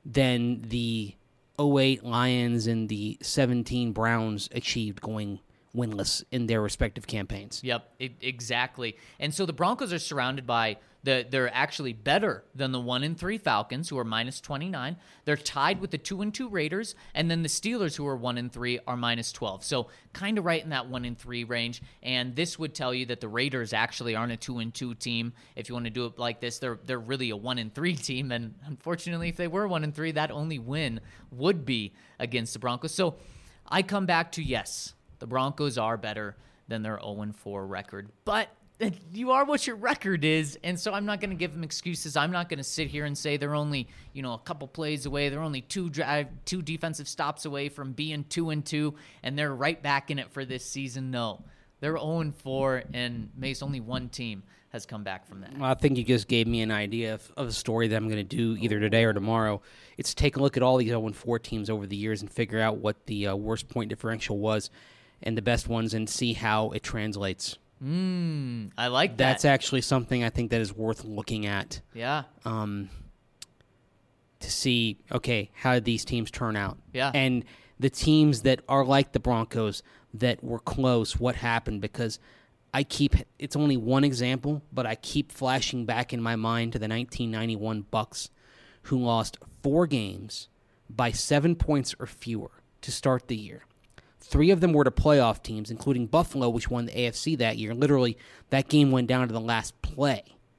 C: than the 08 Lions and the 17 Browns achieved going winless in their respective campaigns.
A: Yep, exactly. And so the Broncos are surrounded by they're actually better than the 1-3 Falcons, who are -29. They're tied with the 2-2 Raiders, and then the Steelers, who are 1-3, are -12. So kind of right in that 1-3 range. And this would tell you that the Raiders actually aren't a 2-2 team. If you want to do it like this, they're really a 1-3 team. And unfortunately, if they were 1-3, that only win would be against the Broncos. So I come back to, yes, the Broncos are better than their 0-4 record, but you are what your record is, and so I'm not going to give them excuses. I'm not going to sit here and say they're only, a couple plays away. They're only two defensive stops away from being 2-2, and they're right back in it for this season. No, they're 0-4, and Mace, only one team has come back from that.
C: Well, I think you just gave me an idea of a story that I'm going to do either today or tomorrow. It's take a look at all these 0-4 teams over the years and figure out what the worst point differential was and the best ones and see how it translates.
A: I like that.
C: That's actually something I think that is worth looking at.
A: Yeah.
C: To see, okay, how did these teams turn out?
A: Yeah.
C: And the teams that are like the Broncos that were close, what happened? Because it's only one example, but I keep flashing back in my mind to the 1991 Bucks, who lost 4 games by 7 points or fewer to start the year. 3 of them were to playoff teams, including Buffalo, which won the AFC that year. Literally, that game went down to the last play.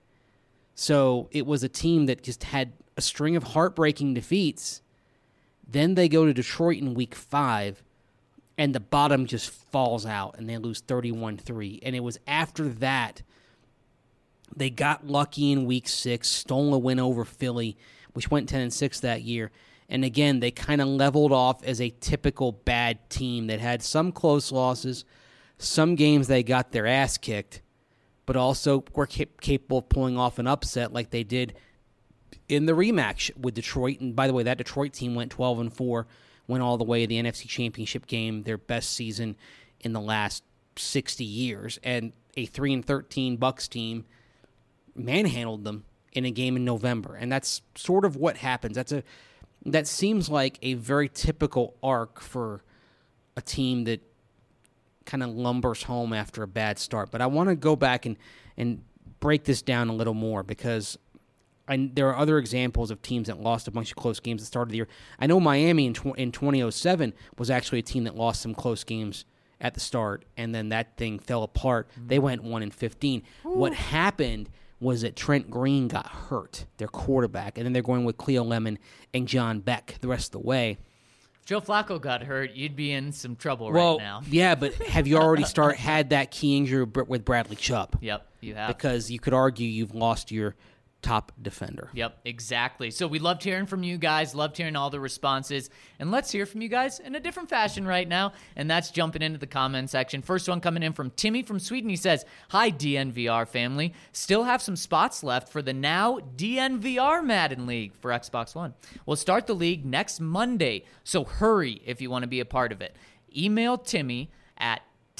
C: So it was a team that just had a string of heartbreaking defeats. Then they go to Detroit in Week 5, and the bottom just falls out, and they lose 31-3. And it was after that they got lucky in Week 6, stole a win over Philly, which went 10-6 that year. And again, they kind of leveled off as a typical bad team that had some close losses, some games they got their ass kicked, but also were capable of pulling off an upset like they did in the rematch with Detroit. And by the way, that Detroit team went 12-4, went all the way to the NFC Championship game, their best season in the last 60 years. And a 3-13 Bucks team manhandled them in a game in November. And that's sort of what happens. That seems like a very typical arc for a team that kind of lumbers home after a bad start. But I want to go back and break this down a little more because there are other examples of teams that lost a bunch of close games at the start of the year. I know Miami in 2007 was actually a team that lost some close games at the start, and then that thing fell apart. They went 1-15. What happened was that Trent Green got hurt, their quarterback, and then they're going with Cleo Lemon and John Beck the rest of the way.
A: If Joe Flacco got hurt, you'd be in some trouble right now.
C: Yeah, but have you already had that key injury with Bradley Chubb?
A: Yep, you have.
C: Because you could argue you've lost your top defender.
A: Yep, exactly. So we loved hearing from you guys, loved hearing all the responses, and let's hear from you guys in a different fashion right now, and that's jumping into the comment section. First one coming in from Timmy from Sweden. He says, "Hi, DNVR family. Still have some spots left for the now DNVR Madden League for Xbox One. We'll start the league next Monday, so hurry if you want to be a part of it. Email Timmy at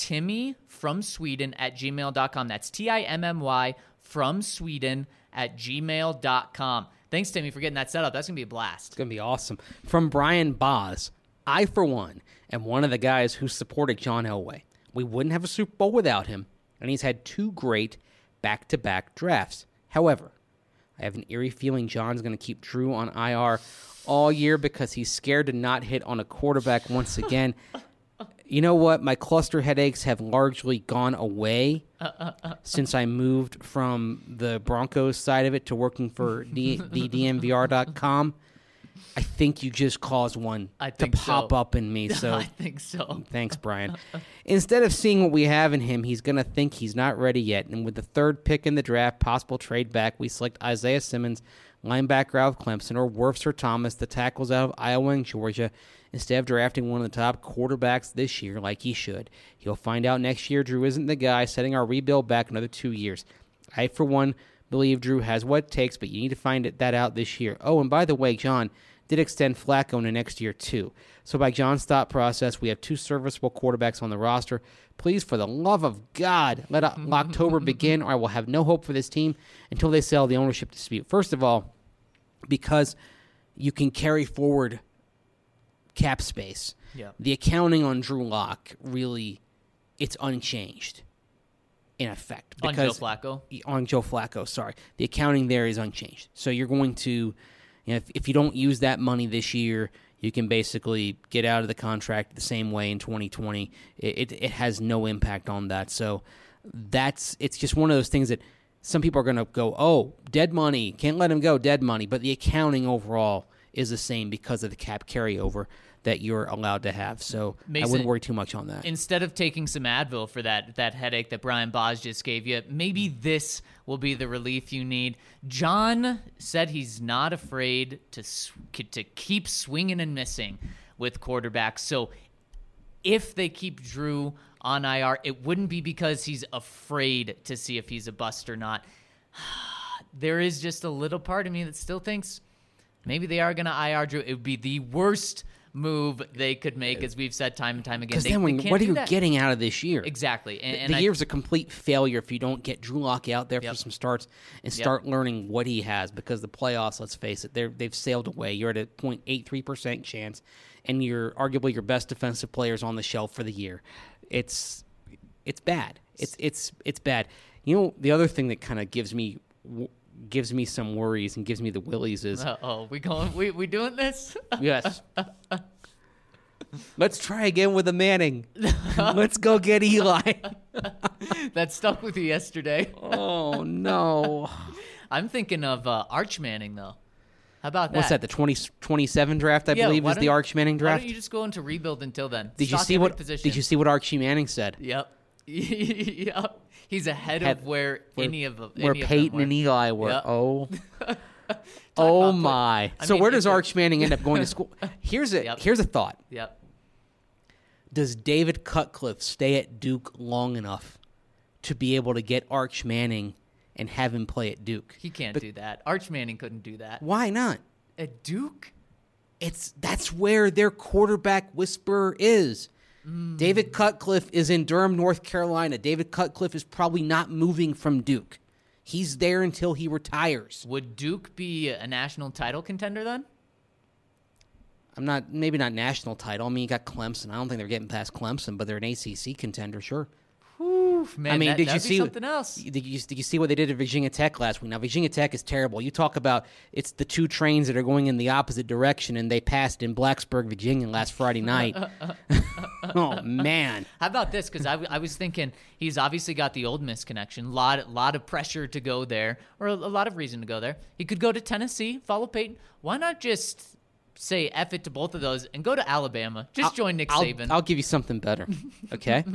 A: timmyfromsweden@gmail.com. That's TIMMY from Sweden at gmail.com. Thanks, Timmy, for getting that set up. That's going to be a blast.
C: It's going to be awesome. From Brian Boz, I, for one, am one of the guys who supported John Elway. We wouldn't have a Super Bowl without him, and he's had 2 great back-to-back drafts. However, I have an eerie feeling John's going to keep Drew on IR all year because he's scared to not hit on a quarterback once again. You know what? My cluster headaches have largely gone away since I moved from the Broncos side of it to working for the DNVR.com. I think you just caused one to pop up in me. So
A: I think so.
C: Thanks, Brian. Instead of seeing what we have in him, he's going to think he's not ready yet. And with the 3rd pick in the draft, possible trade back, we select Isaiah Simmons, linebacker out of Clemson, or Wirfs or Thomas, the tackles out of Iowa and Georgia. Instead of drafting one of the top quarterbacks this year like he should, he'll find out next year Drew isn't the guy, setting our rebuild back another 2 years. I, for one, believe Drew has what it takes, but you need to find that out this year. Oh, and by the way, John did extend Flacco into next year too. So by John's thought process, we have 2 serviceable quarterbacks on the roster. Please, for the love of God, let October begin, or I will have no hope for this team until they settle the ownership dispute. First of all, because you can carry forward cap space.
A: Yeah.
C: The accounting on Drew Lock really it's unchanged in effect.
A: On Joe Flacco?
C: On Joe Flacco, sorry. The accounting there is unchanged. So you're going to, if you don't use that money this year, you can basically get out of the contract the same way in 2020. It has no impact on that. So it's just one of those things that some people are going to go, oh, dead money, can't let him go, dead money. But the accounting overall is the same because of the cap carryover that you're allowed to have. So
A: Mason,
C: I wouldn't worry too much on that.
A: Instead of taking some Advil for that headache that Brian Boz just gave you, maybe this will be the relief you need. John said he's not afraid to keep swinging and missing with quarterbacks. So if they keep Drew on IR, it wouldn't be because he's afraid to see if he's a bust or not. There is just a little part of me that still thinks maybe they are going to IR Drew. It would be the worst move they could make, as we've said time and time again.
C: Because then what are you getting out of this year?
A: Exactly.
C: And the year's a complete failure if you don't get Drew Lock out there for some starts and start learning what he has, because the playoffs, let's face it, they've sailed away. You're at a 0.83% chance, and you're arguably your best defensive players on the shelf for the year. It's bad. It's bad. You know, the other thing that kind of gives me some worries and gives me the willies is...
A: we doing this?
C: Yes. Let's try again with the Manning. Let's go get Eli.
A: That stuck with you yesterday.
C: Oh, no.
A: I'm thinking of Arch Manning, though. How about that?
C: What's that, the 2027 draft, I believe, is the Arch Manning draft?
A: Why don't you just go into rebuild until then?
C: Did you see what Archie Manning said?
A: Yep. Yep. He's ahead of where
C: Peyton and Eli were.
A: Yep.
C: Oh. Oh my! So where does Arch Manning end up going to school? Here's a thought.
A: Yep.
C: Does David Cutcliffe stay at Duke long enough to be able to get Arch Manning and have him play at Duke?
A: He can't do that. Arch Manning couldn't do that.
C: Why not?
A: At Duke?
C: That's where their quarterback whisperer is. David Cutcliffe is in Durham, North Carolina. David Cutcliffe is probably not moving from Duke. He's there until he retires.
A: Would Duke be a national title contender then?
C: Maybe not national title. I mean, you got Clemson. I don't think they're getting past Clemson, but they're an ACC contender, sure.
A: Whew, man,
C: I mean, did you see
A: something else?
C: Did you see what they did at Virginia Tech last week? Now, Virginia Tech is terrible. You talk about it's the two trains that are going in the opposite direction, and they passed in Blacksburg, Virginia last Friday night. Oh, man.
A: How about this? Because I was thinking he's obviously got the Ole Miss connection. Lot of pressure to go there, or a lot of reason to go there. He could go to Tennessee, follow Peyton. Why not just say F it to both of those and go to Alabama? Just join Nick Saban.
C: I'll give you something better, okay?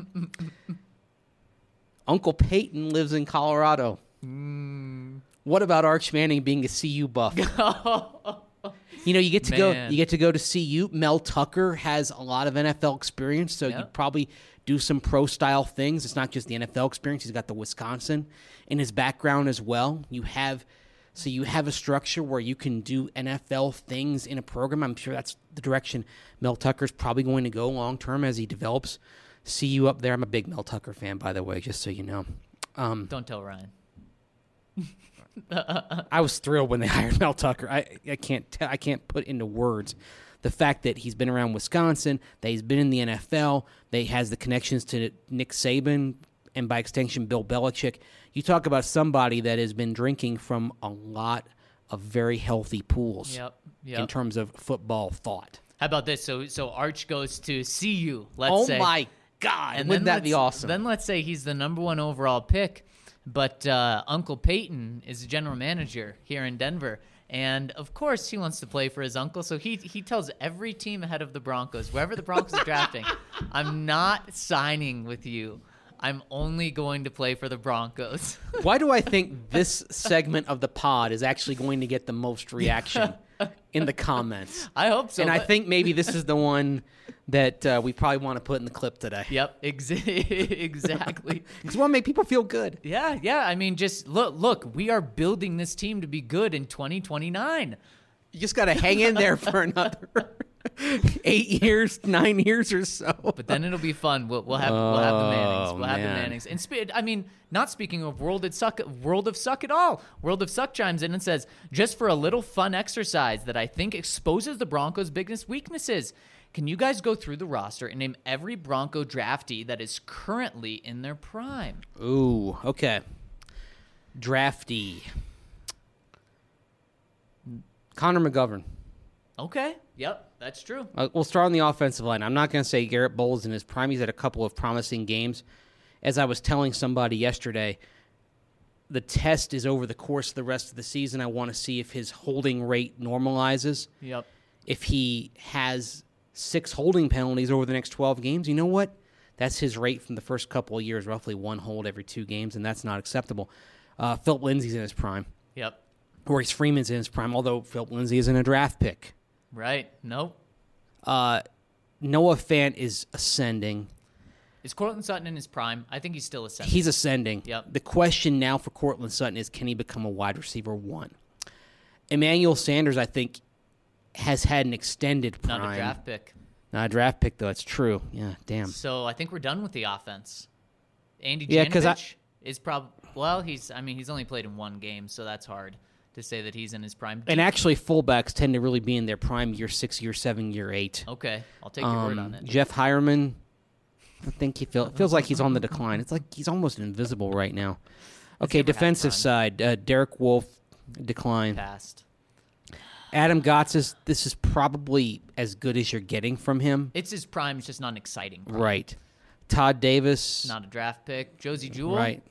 C: Uncle Peyton lives in Colorado. What about Arch Manning being a CU buff? You know, you get to go to CU. Mel Tucker has a lot of NFL experience, so you probably do some pro style things. It's not just the NFL experience. He's got the Wisconsin in his background as well. You have a structure where you can do NFL things in a program. I'm sure that's the direction Mel Tucker's probably going to go long term as he develops CU up there. I'm a big Mel Tucker fan, by the way, just so you know.
A: Don't tell Ryan.
C: I was thrilled when they hired Mel Tucker. I can't put into words the fact that he's been around Wisconsin, that he's been in the NFL, that he has the connections to Nick Saban, and by extension, Bill Belichick. You talk about somebody that has been drinking from a lot of very healthy pools in terms of football thought.
A: How about this? So Arch goes to CU, let's say.
C: Oh, my God.
A: And
C: wouldn't that be awesome?
A: Then let's say he's the number one overall pick, but Uncle Peyton is the general manager here in Denver. And, of course, he wants to play for his uncle, so he tells every team ahead of the Broncos, wherever the Broncos are drafting, I'm not signing with you. I'm only going to play for the Broncos.
C: Why do I think this segment of the pod is actually going to get the most reaction in the comments?
A: I hope so.
C: And I think maybe this is the one that we probably want to put in the clip today.
A: Yep, exactly.
C: Because we want to make people feel good.
A: Yeah. I mean, just look, we are building this team to be good in 2029.
C: You just got to hang in there for another 8 years, 9 years or so.
A: But then it'll be fun. We'll have the Mannings. We'll have the Mannings. And not speaking of World of Suck at all. World of Suck chimes in and says, just for a little fun exercise that I think exposes the Broncos' biggest weaknesses, Can you guys go through the roster and name every Bronco draftee that is currently in their prime?
C: Ooh, okay. Draftee. Connor McGovern.
A: Okay. Yep, that's true.
C: We'll start on the offensive line. I'm not going to say Garrett Bowles in his prime. He's had a couple of promising games. As I was telling somebody yesterday, the test is over the course of the rest of the season. I want to see if his holding rate normalizes.
A: Yep.
C: If he has 6 holding penalties over the next 12 games, you know what? That's his rate from the first couple of years, roughly 1 hold every 2 games, and that's not acceptable. Philip Lindsay's in his prime.
A: Yep.
C: Maurice Freeman's in his prime, although Philip Lindsay isn't a draft pick.
A: Right. Nope.
C: Noah Fant is ascending.
A: Is Cortland Sutton in his prime? I think he's still ascending.
C: He's ascending.
A: Yep.
C: The question now for Cortland Sutton is, can he become a wide receiver 1? Emmanuel Sanders, I think, has had an extended prime.
A: Not a draft pick.
C: Not a draft pick, though. It's true. Yeah, damn.
A: So I think we're done with the offense. Andy
C: Yeah, 'cause
A: Janovich is probably, well, he's only played in 1 game, so that's hard to say that he's in his prime.
C: And actually, fullbacks tend to really be in their prime year 6, year 7, year 8.
A: Okay, I'll take your word on it.
C: Jeff Hireman, I think he feels like he's on the decline. It's like he's almost invisible right now. Okay,
A: never had
C: defensive
A: prime.
C: side, Derek Wolfe, decline.
A: Passed.
C: Adam Gotts, this is probably as good as you're getting from him.
A: It's his prime, it's just not an exciting prime.
C: Right. Todd Davis.
A: Not a draft pick. Josie Jewell.
C: Right.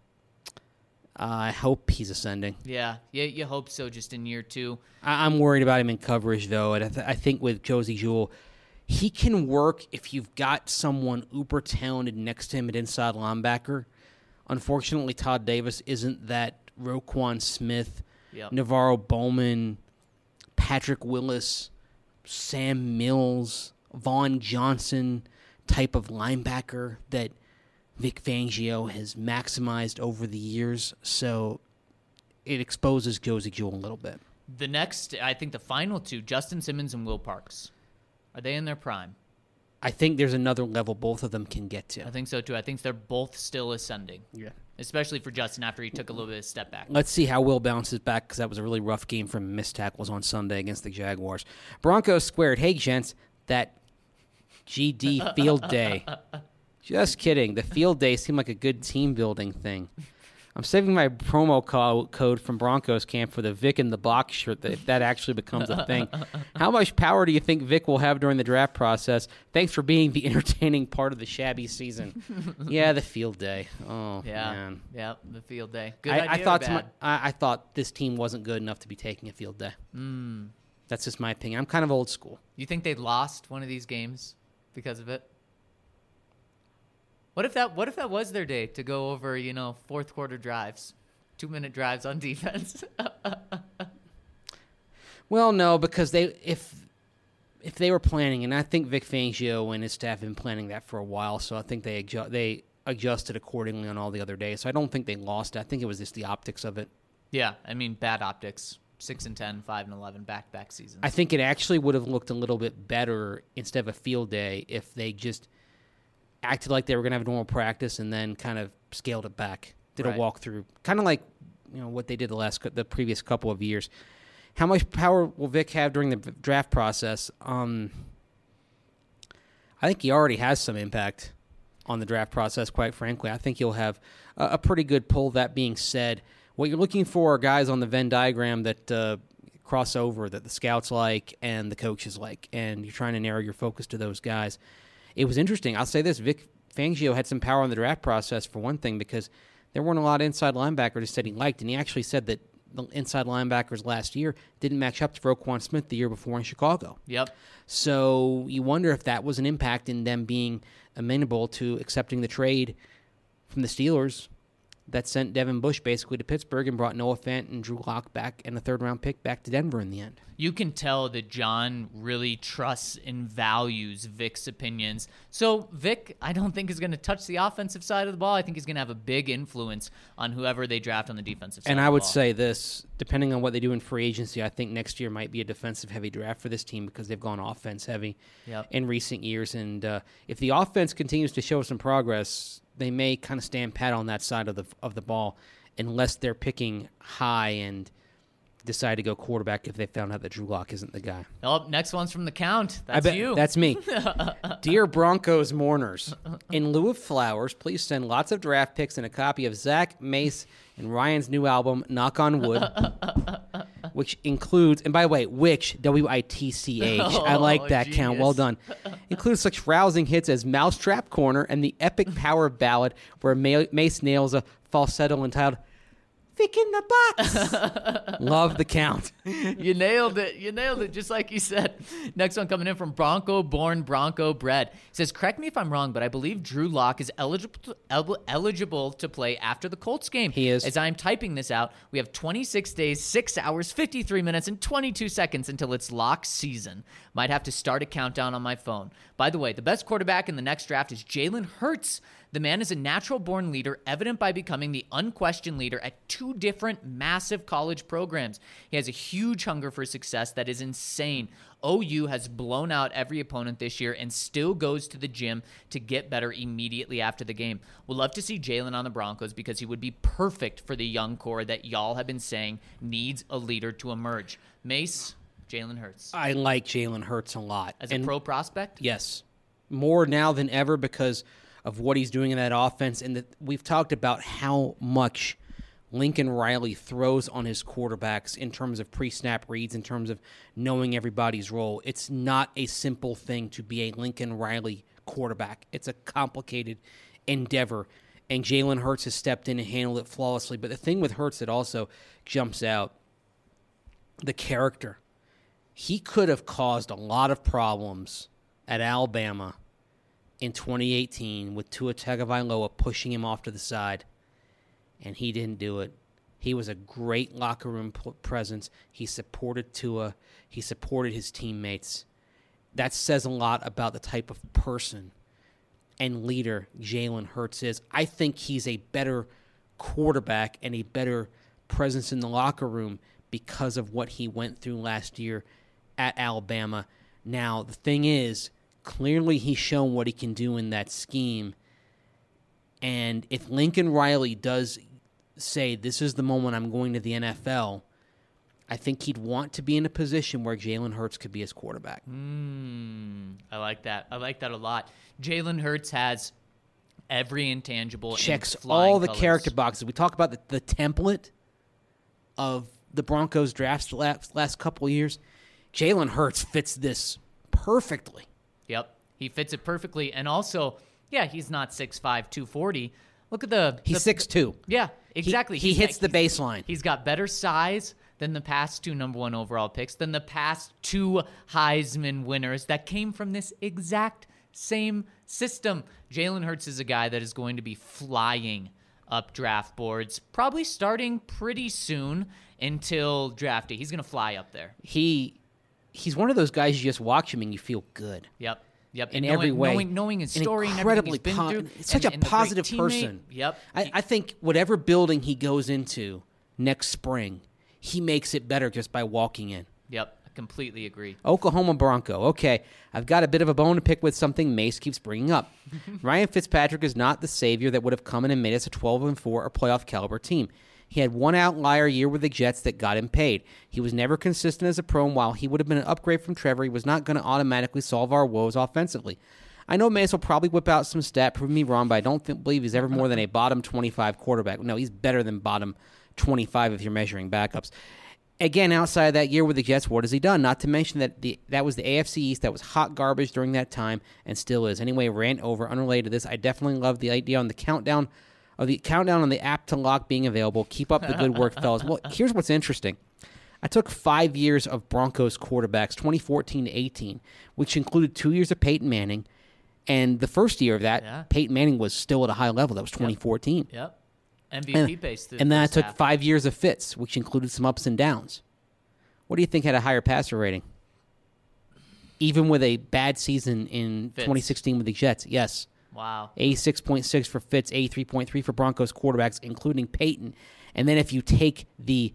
C: I hope he's ascending.
A: Yeah, you hope so just in year 2.
C: I'm worried about him in coverage, though. And I think with Josie Jewell, he can work if you've got someone uber talented next to him at inside linebacker. Unfortunately, Todd Davis isn't that Roquan Smith,
A: Yep.
C: Navarro Bowman, Patrick Willis, Sam Mills, Vaughn Johnson type of linebacker that Vic Fangio has maximized over the years. So it exposes Josie Jewell a little bit.
A: The next, I think the final 2, Justin Simmons and Will Parks. Are they in their prime?
C: I think there's another level both of them can get to.
A: I think so too. I think they're both still ascending.
C: Yeah.
A: Especially for Justin after he took a little bit of a step back.
C: Let's see how Will bounces back, because that was a really rough game for him. Missed tackles on Sunday against the Jaguars. Broncos squared. Hey, gents, that GD field day. Just kidding. The field day seemed like a good team building thing. I'm saving my promo code from Broncos camp for the Vic in the box shirt if that actually becomes a thing. How much power do you think Vic will have during the draft process? Thanks for being the entertaining part of the shabby season. Yeah, the field day. Oh,
A: Yeah,
C: man.
A: yeah, the field day. Good
C: I
A: idea.
C: thought
A: or bad?
C: I thought this team wasn't good enough to be taking a field day. That's just my opinion. I'm kind of old school.
A: You think they lost one of these games because of it? What if that was their day to go over, fourth quarter drives, 2-minute drives on defense?
C: Well, no, because if they were planning, and I think Vic Fangio and his staff have been planning that for a while, so I think they adjusted accordingly on all the other days. So I don't think they lost it. I think it was just the optics of it.
A: Yeah, I mean, bad optics. 6-10, 5-11, back-to-back seasons.
C: I think it actually would have looked a little bit better instead of a field day if they just acted like they were going to have a normal practice and then kind of scaled it back, did a
A: Right.
C: walkthrough, kind of like what they did the previous couple of years. How much power will Vic have during the draft process? I think he already has some impact on the draft process, quite frankly. I think he'll have a pretty good pull. That being said, what you're looking for are guys on the Venn diagram that cross over, that the scouts like and the coaches like, and you're trying to narrow your focus to those guys. It was interesting. I'll say this. Vic Fangio had some power in the draft process, for one thing, because there weren't a lot of inside linebackers that he liked, and he actually said that the inside linebackers last year didn't match up to Roquan Smith the year before in Chicago.
A: Yep.
C: So you wonder if that was an impact in them being amenable to accepting the trade from the Steelers that sent Devin Bush basically to Pittsburgh and brought Noah Fant and Drew Lock back and a third-round pick back to Denver in the end.
A: You can tell that John really trusts and values Vic's opinions. So Vic, I don't think is going to touch the offensive side of the ball. I think he's going to have a big influence on whoever they draft on the defensive side
C: And
A: of
C: I
A: the
C: would
A: ball.
C: say this, depending on what they do in free agency, I think next year might be a defensive-heavy draft for this team because they've gone offense-heavy
A: Yep.
C: in recent years. And if the offense continues to show some progress, they may kind of stand pat on that side of the ball unless they're picking high and decide to go quarterback if they found out that Drew Lock isn't the guy.
A: Oh, next one's from the count.
C: I
A: That's
C: bet
A: you.
C: That's me. Dear Broncos mourners, in lieu of flowers, please send lots of draft picks and a copy of Zach, Mace, and Ryan's new album, Knock on Wood, which includes, and by the way, which, W-I-T-C-H, I like that count, well done, includes such rousing hits as Mousetrap Corner and the epic power ballad where Mace nails a falsetto entitled Vic in the Box. Love the count.
A: You nailed it. You nailed it, just like you said. Next one coming in from Bronco Born Bronco Bred. He says, correct me if I'm wrong, but I believe Drew Lock is eligible to play after the Colts game.
C: He is.
A: As I'm typing this out, we have 26 days, 6 hours, 53 minutes, and 22 seconds until it's lock season. Might have to start a countdown on my phone. By the way, the best quarterback in the next draft is Jalen Hurts. The man is a natural-born leader, evident by becoming the unquestioned leader at 2 different massive college programs. He has a huge hunger for success that is insane. OU has blown out every opponent this year and still goes to the gym to get better immediately after the game. We'll love to see Jalen on the Broncos because he would be perfect for the young core that y'all have been saying needs a leader to emerge. Mace, Jalen Hurts.
C: I like Jalen Hurts a lot.
A: As a pro prospect?
C: Yes. More now than ever because of what he's doing in that offense. And we've talked about how much Lincoln Riley throws on his quarterbacks in terms of pre-snap reads, in terms of knowing everybody's role. It's not a simple thing to be a Lincoln Riley quarterback. It's a complicated endeavor. And Jalen Hurts has stepped in and handled it flawlessly. But the thing with Hurts that also jumps out, the character. He could have caused a lot of problems at Alabama in 2018 with Tua Tagovailoa pushing him off to the side, and he didn't do it. He was a great locker room presence. He supported Tua. He supported his teammates. That says a lot about the type of person and leader Jalen Hurts is. I think he's a better quarterback and a better presence in the locker room because of what he went through last year at Alabama. Now, the thing is, clearly he's shown what he can do in that scheme. And if Lincoln Riley does say, this is the moment I'm going to the NFL, I think he'd want to be in a position where Jalen Hurts could be his quarterback.
A: I like that. I like that a lot. Jalen Hurts has every intangible.
C: Checks
A: in flying
C: all the
A: colors.
C: character boxes. We talk about the template of the Broncos drafts the last couple of years. Jalen Hurts fits this perfectly.
A: Yep. He fits it perfectly. And also, yeah, he's not 6'5", 240. Look at the...
C: He's 6'2".
A: Yeah, exactly.
C: He hits the baseline.
A: He's got better size than the past 2 number 1 overall picks, than the past 2 Heisman winners that came from this exact same system. Jalen Hurts is a guy that is going to be flying up draft boards, probably starting pretty soon until draft day. He's going to fly up there.
C: He's one of those guys you just watch him and you feel good.
A: Yep.
C: In every way.
A: Knowing his story and
C: incredibly
A: everything he's been through.
C: Such a positive person.
A: Yep.
C: I think whatever building he goes into next spring, he makes it better just by walking in.
A: Yep. I completely agree.
C: Oklahoma Bronco. Okay, I've got a bit of a bone to pick with something Mace keeps bringing up. Ryan Fitzpatrick is not the savior that would have come in and made us a 12-4 or playoff caliber team. He had one outlier year with the Jets that got him paid. He was never consistent as a pro, and while he would have been an upgrade from Trevor, he was not going to automatically solve our woes offensively. I know Mace will probably whip out some stat, prove me wrong, but I don't believe he's ever more than a bottom 25 quarterback. No, he's better than bottom 25 if you're measuring backups. Again, outside of that year with the Jets, what has he done? Not to mention that that was the AFC East that was hot garbage during that time and still is. Anyway, rant over. Unrelated to this, I definitely love the idea on the countdown on the app to lock being available. Keep up the good work, fellas. Well, here's what's interesting. I took 5 years of Broncos quarterbacks, 2014 to 18, which included 2 years of Peyton Manning. And the first year of that, Peyton Manning was still at a high level. That was 2014.
A: Yep. MVP pace.
C: And then I took 5 years of Fitz, which included some ups and downs. What do you think had a higher passer rating? Even with a bad season in 2016 with the Jets, yes.
A: Wow.
C: 86.6 for Fitz, 83.3 for Broncos quarterbacks, including Peyton. And then if you take the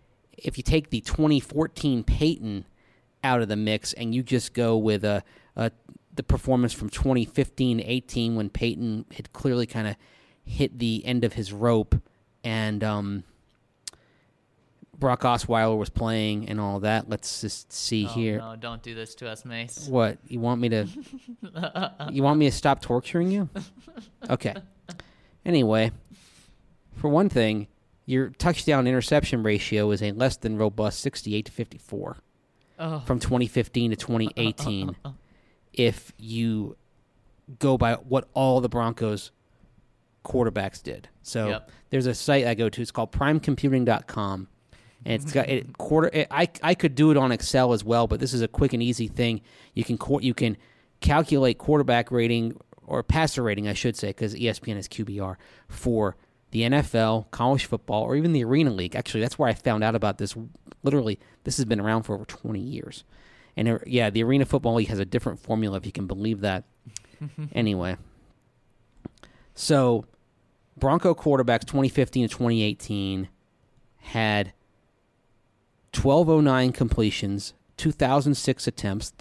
C: 2014 Peyton out of the mix and you just go with the performance from 2015-18 when Peyton had clearly kind of hit the end of his rope and Brock Osweiler was playing and all that. Let's just see here.
A: No, don't do this to us, Mace.
C: What? You want me to stop torturing you? Okay. Anyway, for one thing, your touchdown interception ratio is a less than robust 68 to 54 from 2015 to 2018 if you go by what all the Broncos quarterbacks did. So there's a site I go to. It's called primecomputing.com. And it's got I could do it on Excel as well, but this is a quick and easy thing. You can calculate quarterback rating or passer rating, I should say, because ESPN has QBR for the NFL, college football, or even the Arena League. Actually, that's where I found out about this. Literally, this has been around for over 20 years. And the Arena Football League has a different formula, if you can believe that. Anyway, so Bronco quarterbacks 2015 to 2018 had 1,209 completions, 2,006 attempts,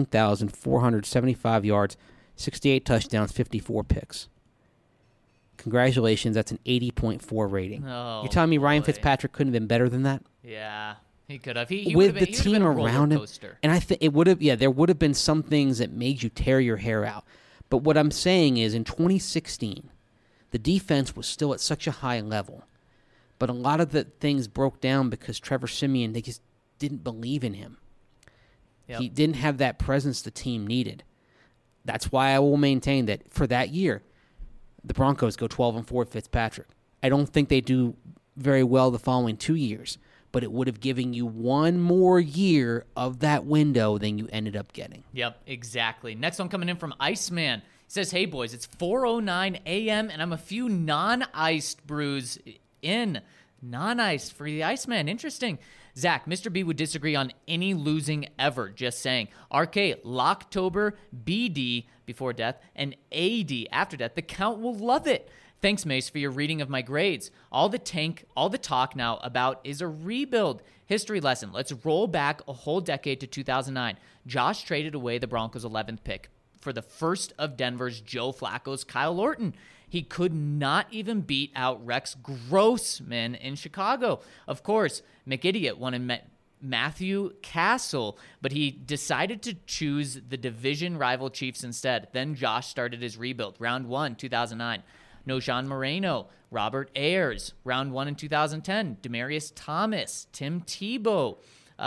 C: 13,475 yards, 68 touchdowns, 54 picks. Congratulations, that's an 80.4 rating.
A: Oh,
C: You're telling me Ryan Fitzpatrick couldn't have been better than that?
A: Yeah, he could have. He
C: with
A: would have
C: the team around him, and I think it would have. Yeah, there would have been some things that made you tear your hair out. But what I'm saying is, in 2016, the defense was still at such a high level. But a lot of the things broke down because Trevor Siemian, they just didn't believe in him. Yep. He didn't have that presence the team needed. That's why I will maintain that for that year, the Broncos go 12-4 with Fitzpatrick. I don't think they do very well the following 2 years, but it would have given you one more year of that window than you ended up getting.
A: Yep, exactly. Next one coming in from Iceman. He says, hey, boys, it's 4:09 a.m., and I'm a few non-iced brews in. Non-iced for the Iceman. Interesting. Zach, Mr. B would disagree on any losing ever. Just saying. RK, Locktober, BD before death, and AD after death. The count will love it. Thanks, Mace, for your reading of my grades. All the talk now about is a rebuild. History lesson. Let's roll back a whole decade to 2009. Josh traded away the Broncos' 11th pick for the first of Denver's Joe Flacco's Kyle Orton. He could not even beat out Rex Grossman in Chicago. Of course, McIdiot wanted Matthew Castle, but he decided to choose the division rival Chiefs instead. Then Josh started his rebuild. Round 1, 2009. Nojan Moreno, Robert Ayers. Round 1 in 2010. Demaryius Thomas, Tim Tebow.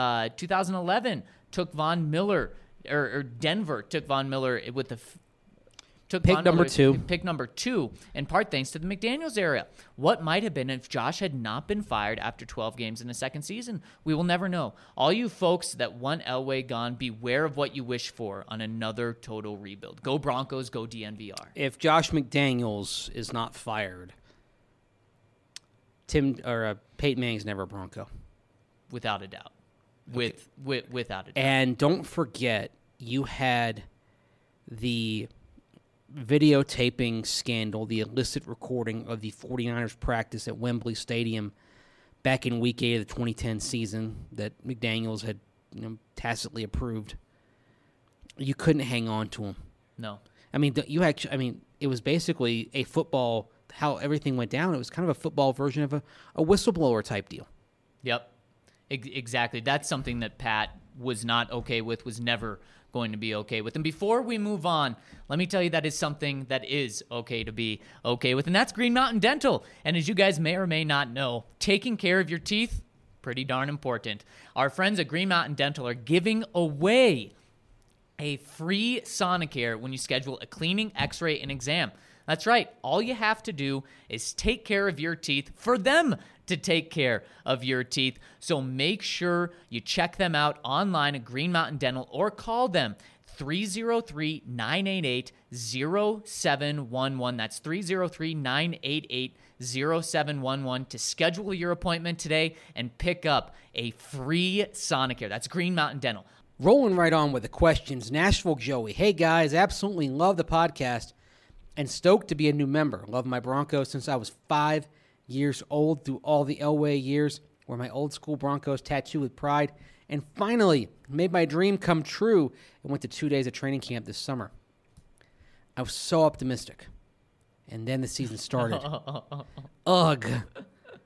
A: 2011 took Von Miller, or Denver took Von Miller with the
C: pick number 2.
A: Pick number 2, in part thanks to the McDaniels era. What might have been if Josh had not been fired after 12 games in a second season? We will never know. All you folks that want Elway gone, beware of what you wish for on another total rebuild. Go Broncos, go DNVR.
C: If Josh McDaniels is not fired, Peyton Manning's never a Bronco.
A: Without a doubt. Okay. Without a doubt.
C: And don't forget, you had the videotaping scandal, the illicit recording of the 49ers practice at Wembley Stadium back in Week 8 of the 2010 season that McDaniels had tacitly approved. You couldn't hang on to him.
A: No.
C: I mean, it was basically a football, how everything went down. It was kind of a football version of a whistleblower type deal.
A: Yep. Exactly. That's something that Pat was not okay with, was never going to be okay with. And before we move on, let me tell you that is something that is okay to be okay with, and that's Green Mountain Dental. And as you guys may or may not know, taking care of your teeth, pretty darn important. Our friends at Green Mountain Dental are giving away a free Sonicare when you schedule a cleaning, x-ray, and exam. That's right. All you have to do is take care of your teeth for them to take care of your teeth. So make sure you check them out online at Green Mountain Dental or call them 303-988-0711. That's 303-988-0711 to schedule your appointment today and pick up a free Sonicare. That's Green Mountain Dental.
C: Rolling right on with the questions. Nashville Joey. Hey, guys, absolutely love the podcast and stoked to be a new member. Love my Broncos since I was 5 years old through all the Elway years. Wear my old school Broncos tattoo with pride. And finally, made my dream come true and went to 2 days of training camp this summer. I was so optimistic. And then the season started. Ugh.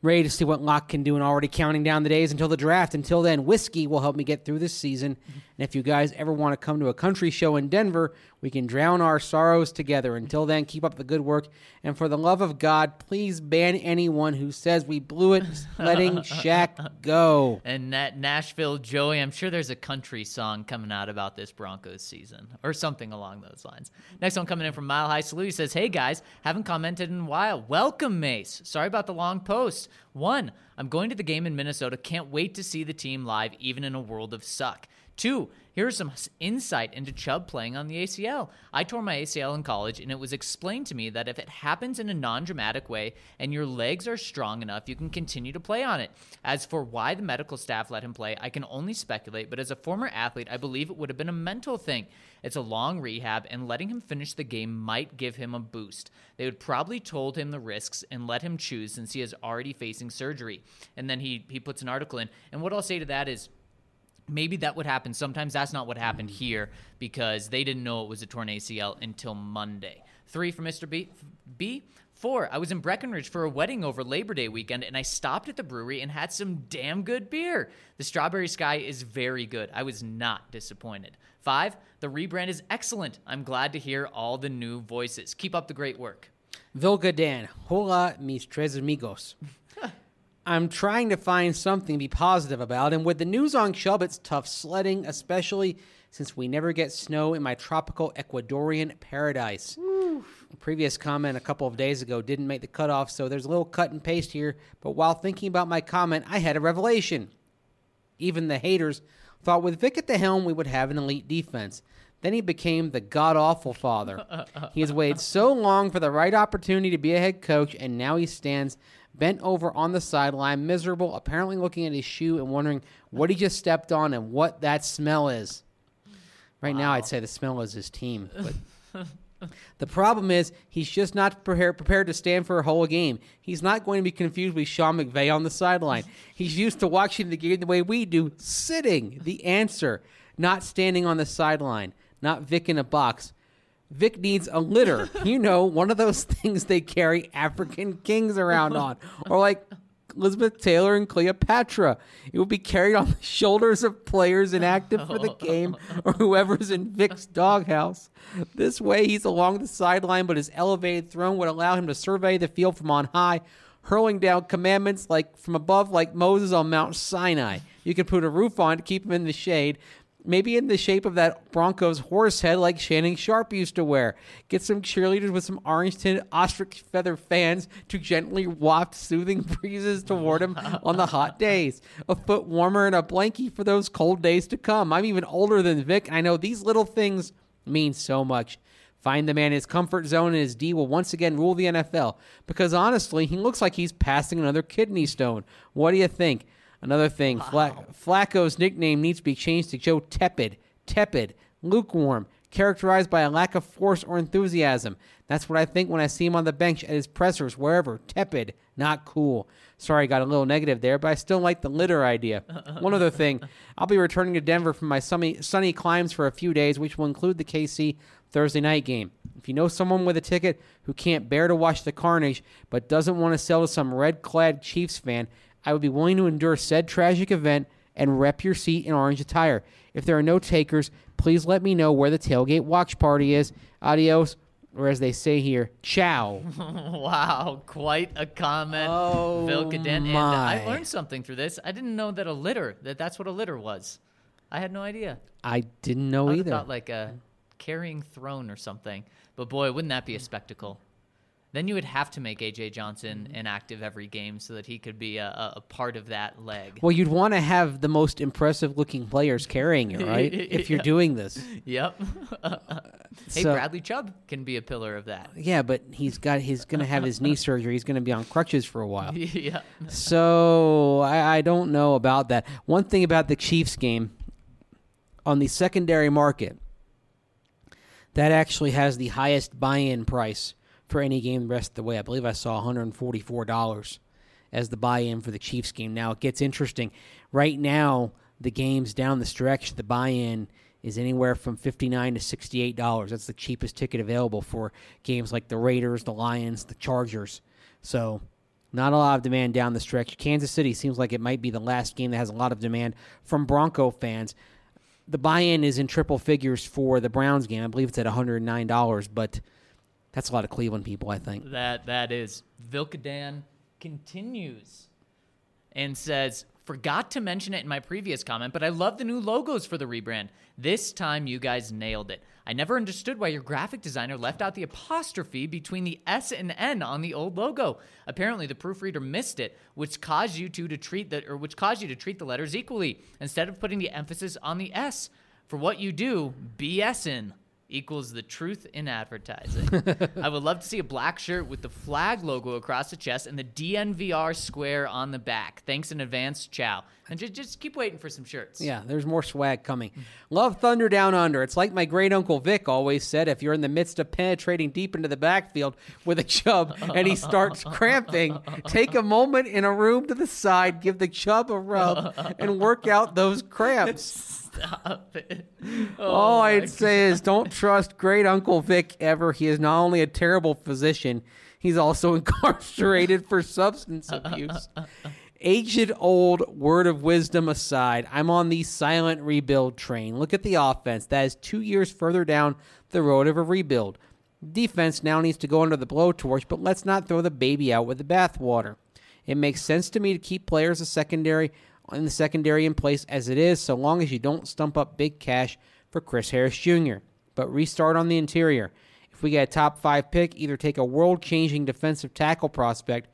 C: Ready to see what Locke can do and already counting down the days until the draft. Until then, whiskey will help me get through this season. And if you guys ever want to come to a country show in Denver, we can drown our sorrows together. Until then, keep up the good work. And for the love of God, please ban anyone who says we blew it letting Shaq go.
A: And that Nashville Joey, I'm sure there's a country song coming out about this Broncos season or something along those lines. Next one coming in from Mile High Salute. He says, hey guys, haven't commented in a while. Welcome, Mace. Sorry about the long post. 1, I'm going to the game in Minnesota. Can't wait to see the team live, even in a world of suck. 2, here's some insight into Chubb playing on the ACL. I tore my ACL in college, and it was explained to me that if it happens in a non-dramatic way and your legs are strong enough, you can continue to play on it. As for why the medical staff let him play, I can only speculate, but as a former athlete, I believe it would have been a mental thing. It's a long rehab, and letting him finish the game might give him a boost. They would probably told him the risks and let him choose since he is already facing surgery. And then he puts an article in, and what I'll say to that is, maybe that would happen. Sometimes that's not what happened here because they didn't know it was a torn ACL until Monday. 3 for Mr. B. 4, I was in Breckenridge for a wedding over Labor Day weekend, and I stopped at the brewery and had some damn good beer. The Strawberry Sky is very good. I was not disappointed. 5, the rebrand is excellent. I'm glad to hear all the new voices. Keep up the great work.
C: Vilga Dan. Hola, mis tres amigos. I'm trying to find something to be positive about, and with the news on Chubb, it's tough sledding, especially since we never get snow in my tropical Ecuadorian paradise. A previous comment a couple of days ago didn't make the cutoff, so there's a little cut and paste here, but while thinking about my comment, I had a revelation. Even the haters thought with Vic at the helm, we would have an elite defense. Then he became the god-awful father. He has waited so long for the right opportunity to be a head coach, and now he stands bent over on the sideline, miserable, apparently looking at his shoe and wondering what he just stepped on and what that smell is. Right now, I'd say the smell is his team. But the problem is he's just not prepared to stand for a whole game. He's not going to be confused with Sean McVay on the sideline. He's used to watching the game the way we do, sitting, the answer, not standing on the sideline, not Vic in a box. Vic needs a litter. You know, one of those things they carry African kings around on. Or like Elizabeth Taylor and Cleopatra. It will be carried on the shoulders of players inactive for the game or whoever's in Vic's doghouse. This way, he's along the sideline, but his elevated throne would allow him to survey the field from on high, hurling down commandments like from above like Moses on Mount Sinai. You could put a roof on to keep him in the shade. Maybe in the shape of that Broncos horse head like Shannon Sharp used to wear. Get some cheerleaders with some orange-tinted ostrich feather fans to gently waft soothing breezes toward him on the hot days. A foot warmer and a blankie for those cold days to come. I'm even older than Vic. I know these little things mean so much. Find the man in his comfort zone, and his D will once again rule the NFL. Because honestly, he looks like he's passing another kidney stone. What do you think? Another thing, Flacco's nickname needs to be changed to Joe Tepid, lukewarm, characterized by a lack of force or enthusiasm. That's what I think when I see him on the bench at his pressers, wherever. Tepid, not cool. Sorry, got a little negative there, but I still like the litter idea. One other thing, I'll be returning to Denver from my sunny climbs for a few days, which will include the KC Thursday night game. If you know someone with a ticket who can't bear to watch the carnage but doesn't want to sell to some red-clad Chiefs fan, I would be willing to endure said tragic event and rep your seat in orange attire. If there are no takers, please let me know where the tailgate watch party is. Adios, or as they say here, ciao.
A: Wow, quite a comment, Phil Caden. And I learned something through this. I didn't know that that's what a litter was. I had no idea.
C: I didn't know either.
A: I thought like a carrying throne or something. But boy, wouldn't that be a spectacle? Then you would have to make A.J. Johnson inactive every game so that he could be a part of that leg.
C: Well, you'd want to have the most impressive-looking players carrying it, right? If you're doing this.
A: Yep. Hey, Bradley Chubb can be a pillar of that.
C: Yeah, but he's going to have his knee surgery. He's going to be on crutches for a while.
A: Yeah.
C: So I don't know about that. One thing about the Chiefs game, on the secondary market, that actually has the highest buy-in price for any game the rest of the way. I believe I saw $144 as the buy-in for the Chiefs game. Now, it gets interesting. Right now, the games down the stretch, the buy-in is anywhere from $59 to $68. That's the cheapest ticket available for games like the Raiders, the Lions, the Chargers. So, Not a lot of demand down the stretch. Kansas City seems like it might be the last game that has a lot of demand from Bronco fans. The buy-in is in triple figures for the Browns game. I believe it's at $109, but that's a lot of Cleveland people, I think.
A: That is. Vilkadan continues and says, forgot to mention it in my previous comment, but I love the new logos for the rebrand. This time you guys nailed it. I never understood why your graphic designer left out the apostrophe between the S and N on the old logo. Apparently the proofreader missed it, which caused you to treat the letters equally instead of putting the emphasis on the S. For what you do, BSing equals the truth in advertising. I would love to see a black shirt with the flag logo across the chest and the DNVR square on the back. Thanks in advance. Ciao. And just keep waiting for some shirts.
C: Yeah, there's more swag coming. Love Thunder Down Under. It's like my great uncle Vic always said, if you're in the midst of penetrating deep into the backfield with a chub and he starts cramping, take a moment in a room to the side, give the chub a rub, and work out those cramps.
A: Stop it.
C: All I'd say is don't trust great Uncle Vic ever. He is not only a terrible physician, he's also incarcerated for substance abuse. Aged old word of wisdom aside, I'm on the silent rebuild train. Look at the offense. That is 2 years further down the road of a rebuild. Defense now needs to go under the blowtorch, but let's not throw the baby out with the bathwater. It makes sense to me to keep players in the secondary in place as it is, so long as you don't stump up big cash for Chris Harris Jr. But restart on the interior. If we get a top 5 pick, either take a world-changing defensive tackle prospect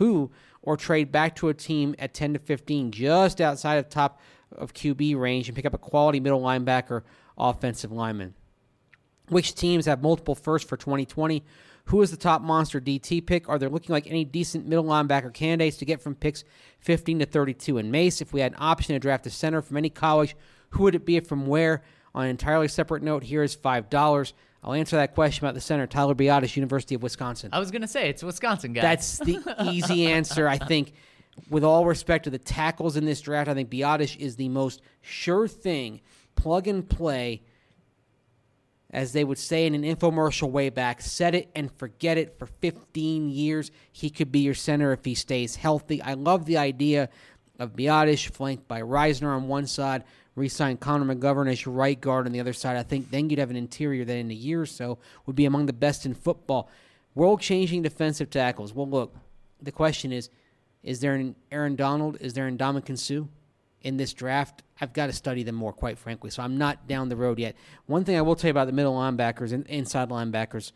C: or trade back to a team at 10 to 15 just outside of top of QB range and pick up a quality middle linebacker offensive lineman. Which teams have multiple firsts for 2020? Who is the top monster DT pick? Are there looking like any decent middle linebacker candidates to get from picks 15 to 32? And Mace, if we had an option to draft a center from any college, who would it be from where? On an entirely separate note, here is $5. I'll answer that question about the center, Tyler Biadasz, University of Wisconsin.
A: I was going to say, it's a Wisconsin guy.
C: That's the easy answer. I think, with all respect to the tackles in this draft, I think Biadasz is the most sure thing, plug and play, as they would say in an infomercial way back, set it and forget it for 15 years. He could be your center if he stays healthy. I love the idea of Biadasz flanked by Reisner on one side, re-sign Connor McGovern as your right guard on the other side. I think then you'd have an interior that in a year or so would be among the best in football. World-changing defensive tackles. Well, look, the question is there an Aaron Donald? Is there an Ndamukong Suh in this draft? I've got to study them more, quite frankly, so I'm not down the road yet. One thing I will tell you about the middle linebackers and inside linebackers,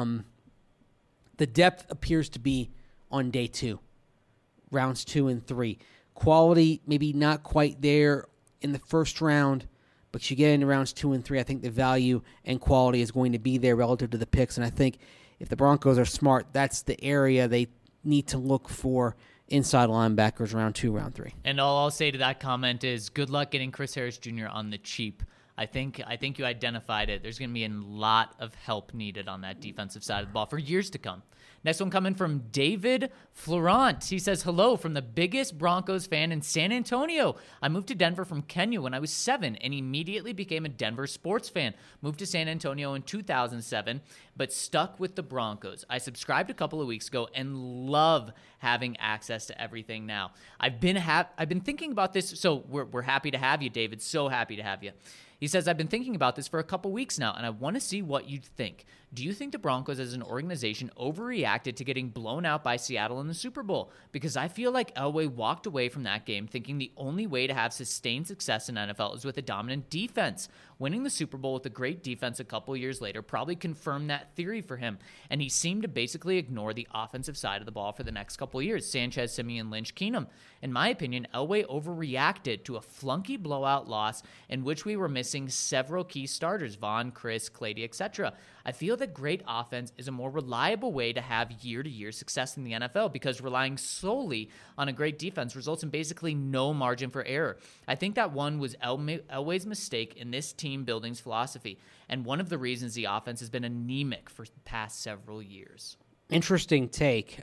C: the depth appears to be on day 2, rounds 2 and 3. Quality maybe not quite there in the first round, but you get into rounds 2 and 3, I think the value and quality is going to be there relative to the picks, and I think if the Broncos are smart, that's the area they need to look for inside linebackers round 2, round 3.
A: And all I'll say to that comment is good luck getting Chris Harris Jr. on the cheap. I think you identified it. There's going to be a lot of help needed on that defensive side of the ball for years to come. Next one coming from David Florent. He says, hello from the biggest Broncos fan in San Antonio. I moved to Denver from Kenya when I was 7 and immediately became a Denver sports fan. Moved to San Antonio in 2007, but stuck with the Broncos. I subscribed a couple of weeks ago and love having access to everything now. I've been thinking about this, so we're happy to have you, David. So happy to have you. He says, I've been thinking about this for a couple weeks now, and I want to see what you'd think. Do you think the Broncos as an organization overreacted to getting blown out by Seattle in the Super Bowl? Because I feel like Elway walked away from that game thinking the only way to have sustained success in NFL is with a dominant defense. Winning the Super Bowl with a great defense a couple years later probably confirmed that theory for him, and he seemed to basically ignore the offensive side of the ball for the next couple of years. Sanchez, Simeon, Lynch, Keenum. In my opinion, Elway overreacted to a flunky blowout loss in which we were missing several key starters, Vaughn, Chris, Clady, etc. I feel that great offense is a more reliable way to have year-to-year success in the NFL because relying solely on a great defense results in basically no margin for error. I think that one was Elway's mistake in this team building's philosophy, and one of the reasons the offense has been anemic for the past several years.
C: Interesting take.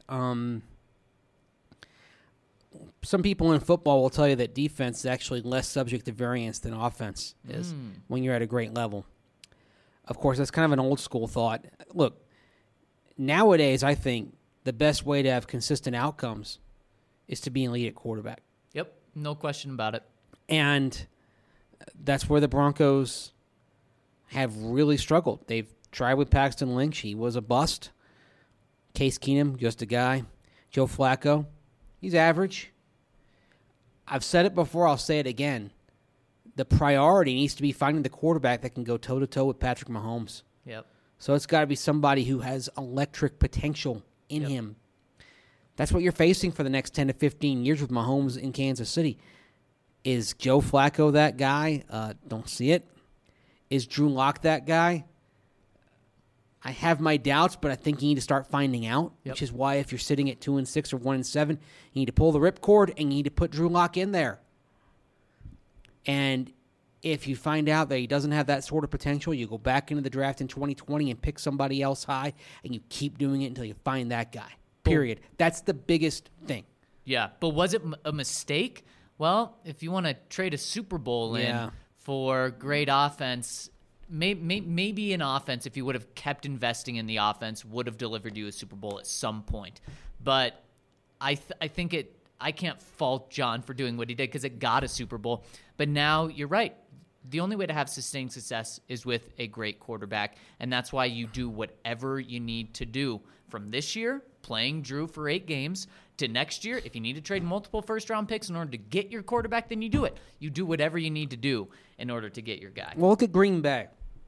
C: Some people in football will tell you that defense is actually less subject to variance than offense is when you're at a great level. Of course, that's kind of an old school thought. Look, nowadays I think the best way to have consistent outcomes is to be an elite at quarterback.
A: Yep, no question about it.
C: And that's where the Broncos have really struggled. They've tried with Paxton Lynch. He was a bust. Case Keenum, just a guy. Joe Flacco, he's average. I've said it before, I'll say it again. The priority needs to be finding the quarterback that can go toe-to-toe with Patrick Mahomes.
A: Yep.
C: So it's got to be somebody who has electric potential in him. That's what you're facing for the next 10 to 15 years with Mahomes in Kansas City. Is Joe Flacco that guy? Don't see it. Is Drew Lock that guy? I have my doubts, but I think you need to start finding out, which is why if you're sitting at 2-6 or 1-7, you need to pull the ripcord and you need to put Drew Lock in there. And if you find out that he doesn't have that sort of potential, you go back into the draft in 2020 and pick somebody else high, and you keep doing it until you find that guy. Period. That's the biggest thing.
A: Yeah, but was it a mistake? Well, if you want to trade a Super Bowl in for great offense, maybe an offense, if you would have kept investing in the offense, would have delivered you a Super Bowl at some point. But I think I can't fault John for doing what he did because it got a Super Bowl. But now you're right. The only way to have sustained success is with a great quarterback, and that's why you do whatever you need to do. From this year, playing Drew for 8 games, to next year, if you need to trade multiple first-round picks in order to get your quarterback, then you do it. You do whatever you need to do in order to get your guy.
C: Well, look at Green Bay.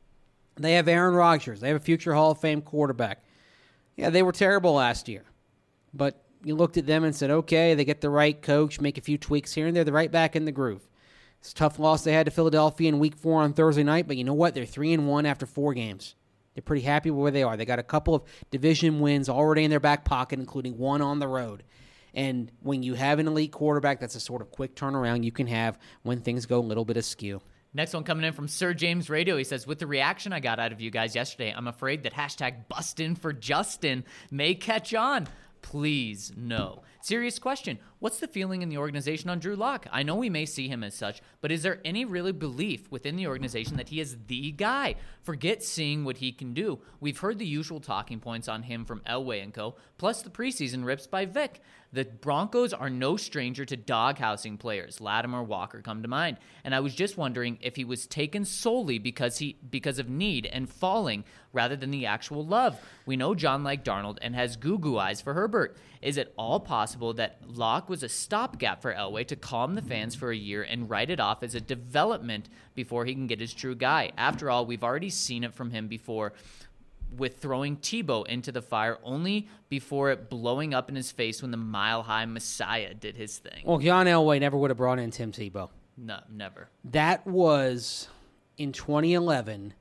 C: They have Aaron Rodgers. They have a future Hall of Fame quarterback. Yeah, they were terrible last year. But you looked at them and said, okay, they get the right coach, make a few tweaks here and there. They're right back in the groove. It's a tough loss they had to Philadelphia in Week 4 on Thursday night, but you know what? They're 3-1 after 4 games. They're pretty happy with where they are. They got a couple of division wins already in their back pocket, including one on the road. And when you have an elite quarterback, that's a sort of quick turnaround you can have when things go a little bit askew.
A: Next one coming in from Sir James Radio. He says, with the reaction I got out of you guys yesterday, I'm afraid that #bustin' for Justin may catch on. Please, no. Serious question. What's the feeling in the organization on Drew Lock? I know we may see him as such, but is there any really belief within the organization that he is the guy? Forget seeing what he can do. We've heard the usual talking points on him from Elway and co., plus the preseason rips by Vic. The Broncos are no stranger to doghousing players. Latimer, Walker come to mind. And I was just wondering if he was taken solely because of need and falling rather than the actual love. We know John liked Darnold and has goo-goo eyes for Herbert. Is it all possible that Locke was a stopgap for Elway to calm the fans for a year and write it off as a development before he can get his true guy? After all, we've already seen it from him before with throwing Tebow into the fire only before it blowing up in his face when the mile-high Messiah did his thing.
C: Well, John Elway never would have brought in Tim Tebow.
A: No, never.
C: That was, in 2011,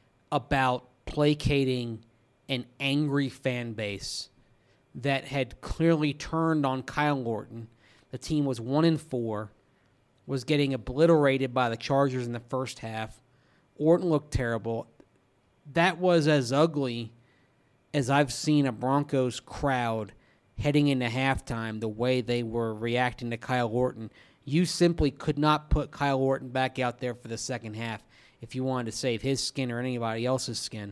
C: about placating an angry fan base that had clearly turned on Kyle Orton. The team was 1-4, was getting obliterated by the Chargers in the first half. Orton looked terrible. That was as ugly as I've seen a Broncos crowd heading into halftime, the way they were reacting to Kyle Orton. You simply could not put Kyle Orton back out there for the second half if you wanted to save his skin or anybody else's skin.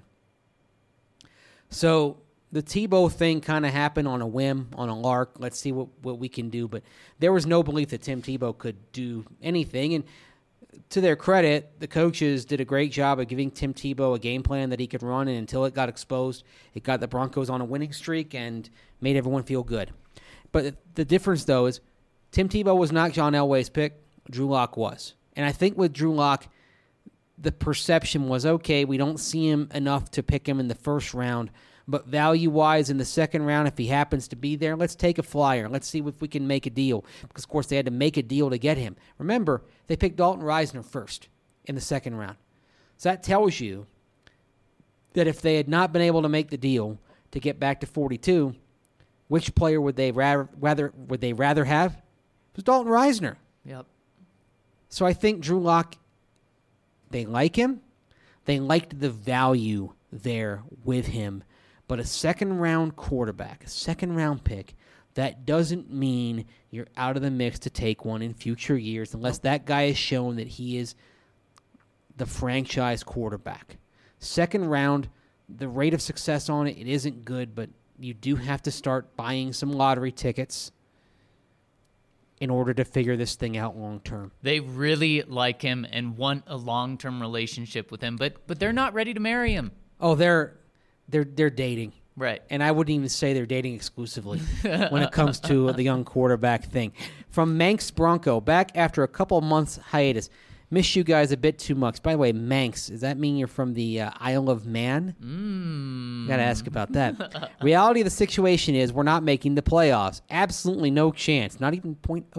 C: So the Tebow thing kind of happened on a whim, on a lark. Let's see what we can do. But there was no belief that Tim Tebow could do anything. And to their credit, the coaches did a great job of giving Tim Tebow a game plan that he could run, and until it got exposed, it got the Broncos on a winning streak and made everyone feel good. But the difference, though, is Tim Tebow was not John Elway's pick. Drew Lock was. And I think with Drew Lock, the perception was, okay, we don't see him enough to pick him in the first round, but value-wise in the second round, if he happens to be there, let's take a flyer. Let's see if we can make a deal. Because, of course, they had to make a deal to get him. Remember, they picked Dalton Risner first in the second round. So that tells you that if they had not been able to make the deal to get back to 42, which player would they rather have? It was Dalton Risner.
A: Yep.
C: So I think Drew Lock, they like him. They liked the value there with him. But a second-round quarterback, a second-round pick, that doesn't mean you're out of the mix to take one in future years unless that guy has shown that he is the franchise quarterback. Second round, the rate of success on it isn't good, but you do have to start buying some lottery tickets in order to figure this thing out long term.
A: They really like him and want a long-term relationship with him, but they're not ready to marry him.
C: Oh, they're dating.
A: Right.
C: And I wouldn't even say they're dating exclusively when it comes to the young quarterback thing. From Manx Bronco, back after a couple months hiatus. Miss you guys a bit too much. By the way, Manx, does that mean you're from the Isle of Man? Got to ask about that. Reality of the situation is we're not making the playoffs. Absolutely no chance. Not even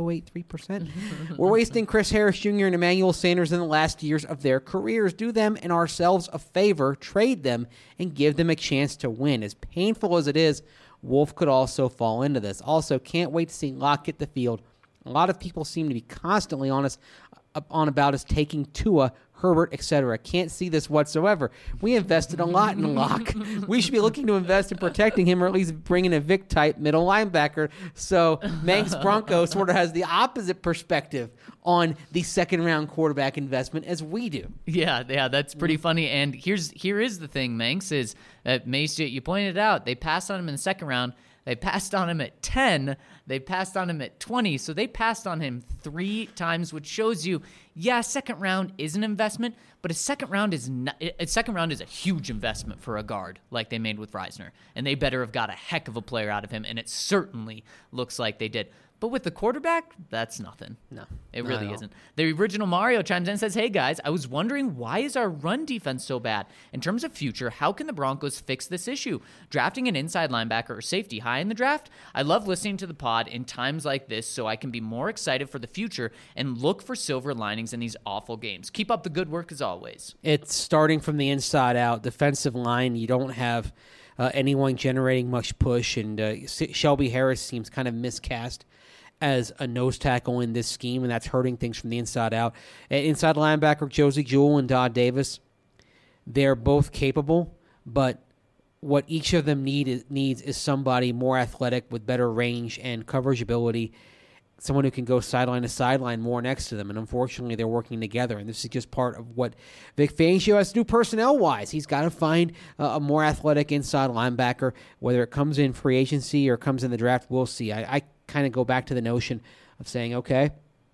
C: 0.083%. We're wasting Chris Harris Jr. and Emmanuel Sanders in the last years of their careers. Do them and ourselves a favor, trade them, and give them a chance to win. As painful as it is, Wolf could also fall into this. Also, can't wait to see Locke get the field. A lot of people seem to be constantly on about us taking Tua, Herbert, etc. Can't see this whatsoever. We invested a lot in Locke. We should be looking to invest in protecting him, or at least bringing a Vic-type middle linebacker. So Manx Bronco sort of has the opposite perspective on the second-round quarterback investment as we do.
A: Yeah, that's pretty funny. And here is the thing, Manx, is that Mace, you pointed out, they passed on him in the second round. They passed on him at 10. They passed on him at 20. So they passed on him 3 times, which shows you, yeah, second round is an investment, but a second round is a huge investment for a guard like they made with Reisner. And they better have got a heck of a player out of him, and it certainly looks like they did. But with the quarterback, that's nothing.
C: No.
A: It really isn't. The original Mario chimes in and says, hey, guys, I was wondering, why is our run defense so bad? In terms of future, how can the Broncos fix this issue? Drafting an inside linebacker or safety high in the draft? I love listening to the pod in times like this so I can be more excited for the future and look for silver linings in these awful games. Keep up the good work as always.
C: It's starting from the inside out. Defensive line, you don't have anyone generating much push, and Shelby Harris seems kind of miscast as a nose tackle in this scheme, and that's hurting things from the inside out. Inside linebacker, Josie Jewell and Dodd Davis, they're both capable, but what each of them needs is somebody more athletic with better range and coverage ability, someone who can go sideline to sideline more next to them, and unfortunately they're working together, and this is just part of what Vic Fangio has to do personnel-wise. He's got to find a more athletic inside linebacker, whether it comes in free agency or comes in the draft, we'll see. I kind of go back to the notion of saying, okay,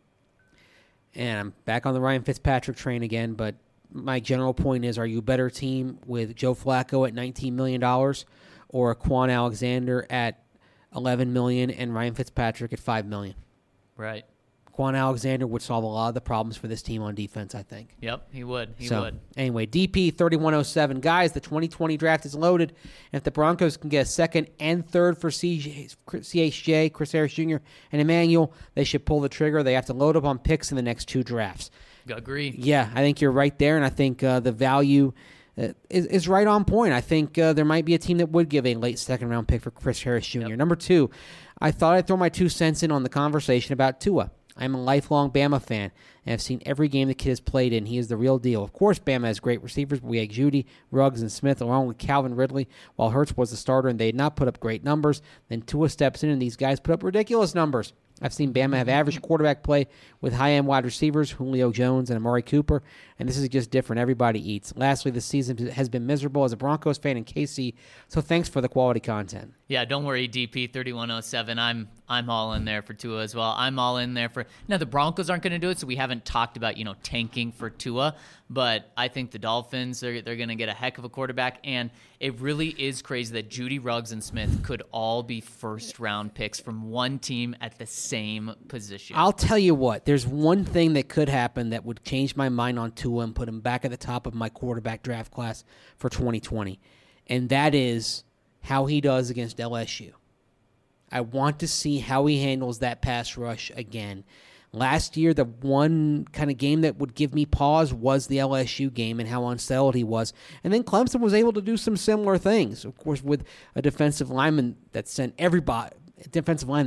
C: and I'm back on the Ryan Fitzpatrick train again, but my general point is, are you a better team with Joe Flacco at $19 million or Quan Alexander at $11 million and Ryan Fitzpatrick at $5 million?
A: Right.
C: Quan Alexander would solve a lot of the problems for this team on defense, I think.
A: Yep, he would. He
C: So,
A: would.
C: anyway, DP 3107. Guys, the 2020 draft is loaded. And if the Broncos can get a second and third for CHJ, Chris Harris Jr., and Emmanuel, they should pull the trigger. They have to load up on picks in the next 2 drafts.
A: Agree.
C: Yeah, I think you're right there, and I think the value is right on point. I think there might be a team that would give a late second-round pick for Chris Harris Jr.
A: Yep.
C: Number 2, I thought I'd throw my 2 cents in on the conversation about Tua. I'm a lifelong Bama fan, and I've seen every game the kid has played in. He is the real deal. Of course, Bama has great receivers, but we had Judy, Ruggs, and Smith, along with Calvin Ridley, while Hurts was the starter, and they had not put up great numbers. Then Tua steps in, and these guys put up ridiculous numbers. I've seen Bama have average quarterback play with high-end wide receivers, Julio Jones and Amari Cooper, and this is just different. Everybody eats. Lastly, this season has been miserable as a Broncos fan in KC, so thanks for the quality content.
A: Yeah, don't worry, DP 3107. I'm all in there for Tua as well. I'm all in there for. Now the Broncos aren't going to do it, so we haven't talked about tanking for Tua. But I think the Dolphins they're going to get a heck of a quarterback, and it really is crazy that Judy, Ruggs, and Smith could all be first round picks from one team at the same position.
C: I'll tell you what. There's one thing that could happen that would change my mind on Tua and put him back at the top of my quarterback draft class for 2020, and that is how he does against LSU. I want to see how he handles that pass rush again. Last year, the one kind of game that would give me pause was the LSU game and how unsettled he was. And then Clemson was able to do some similar things, of course, with a defensive lineman that sent everybody to the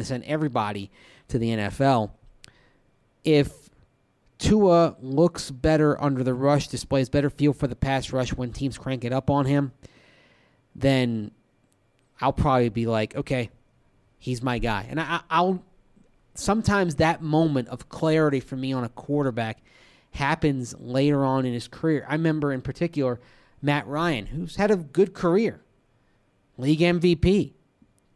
C: NFL. If Tua looks better under the rush, displays better feel for the pass rush when teams crank it up on him, then I'll probably be like, okay, he's my guy. And I'll sometimes that moment of clarity for me on a quarterback happens later on in his career. I remember in particular Matt Ryan, who's had a good career, league MVP,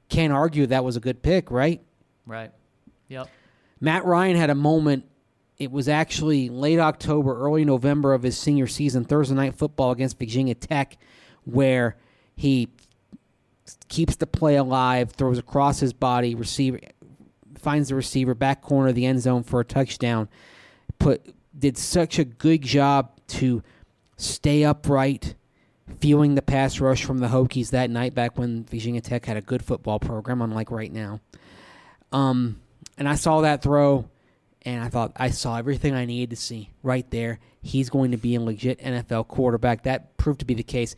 C: can't argue that was a good pick, right?
A: Right. Yep.
C: Matt Ryan had a moment. It was actually late October, early November of his senior season, Thursday Night Football against Virginia Tech, where he keeps the play alive, throws across his body, receiver finds the receiver, back corner of the end zone for a touchdown. Did such a good job to stay upright, fueling the pass rush from the Hokies that night, back when Virginia Tech had a good football program, unlike right now. And I saw that throw, and I thought I saw everything I needed to see right there. He's going to be a legit NFL quarterback. That proved to be the case.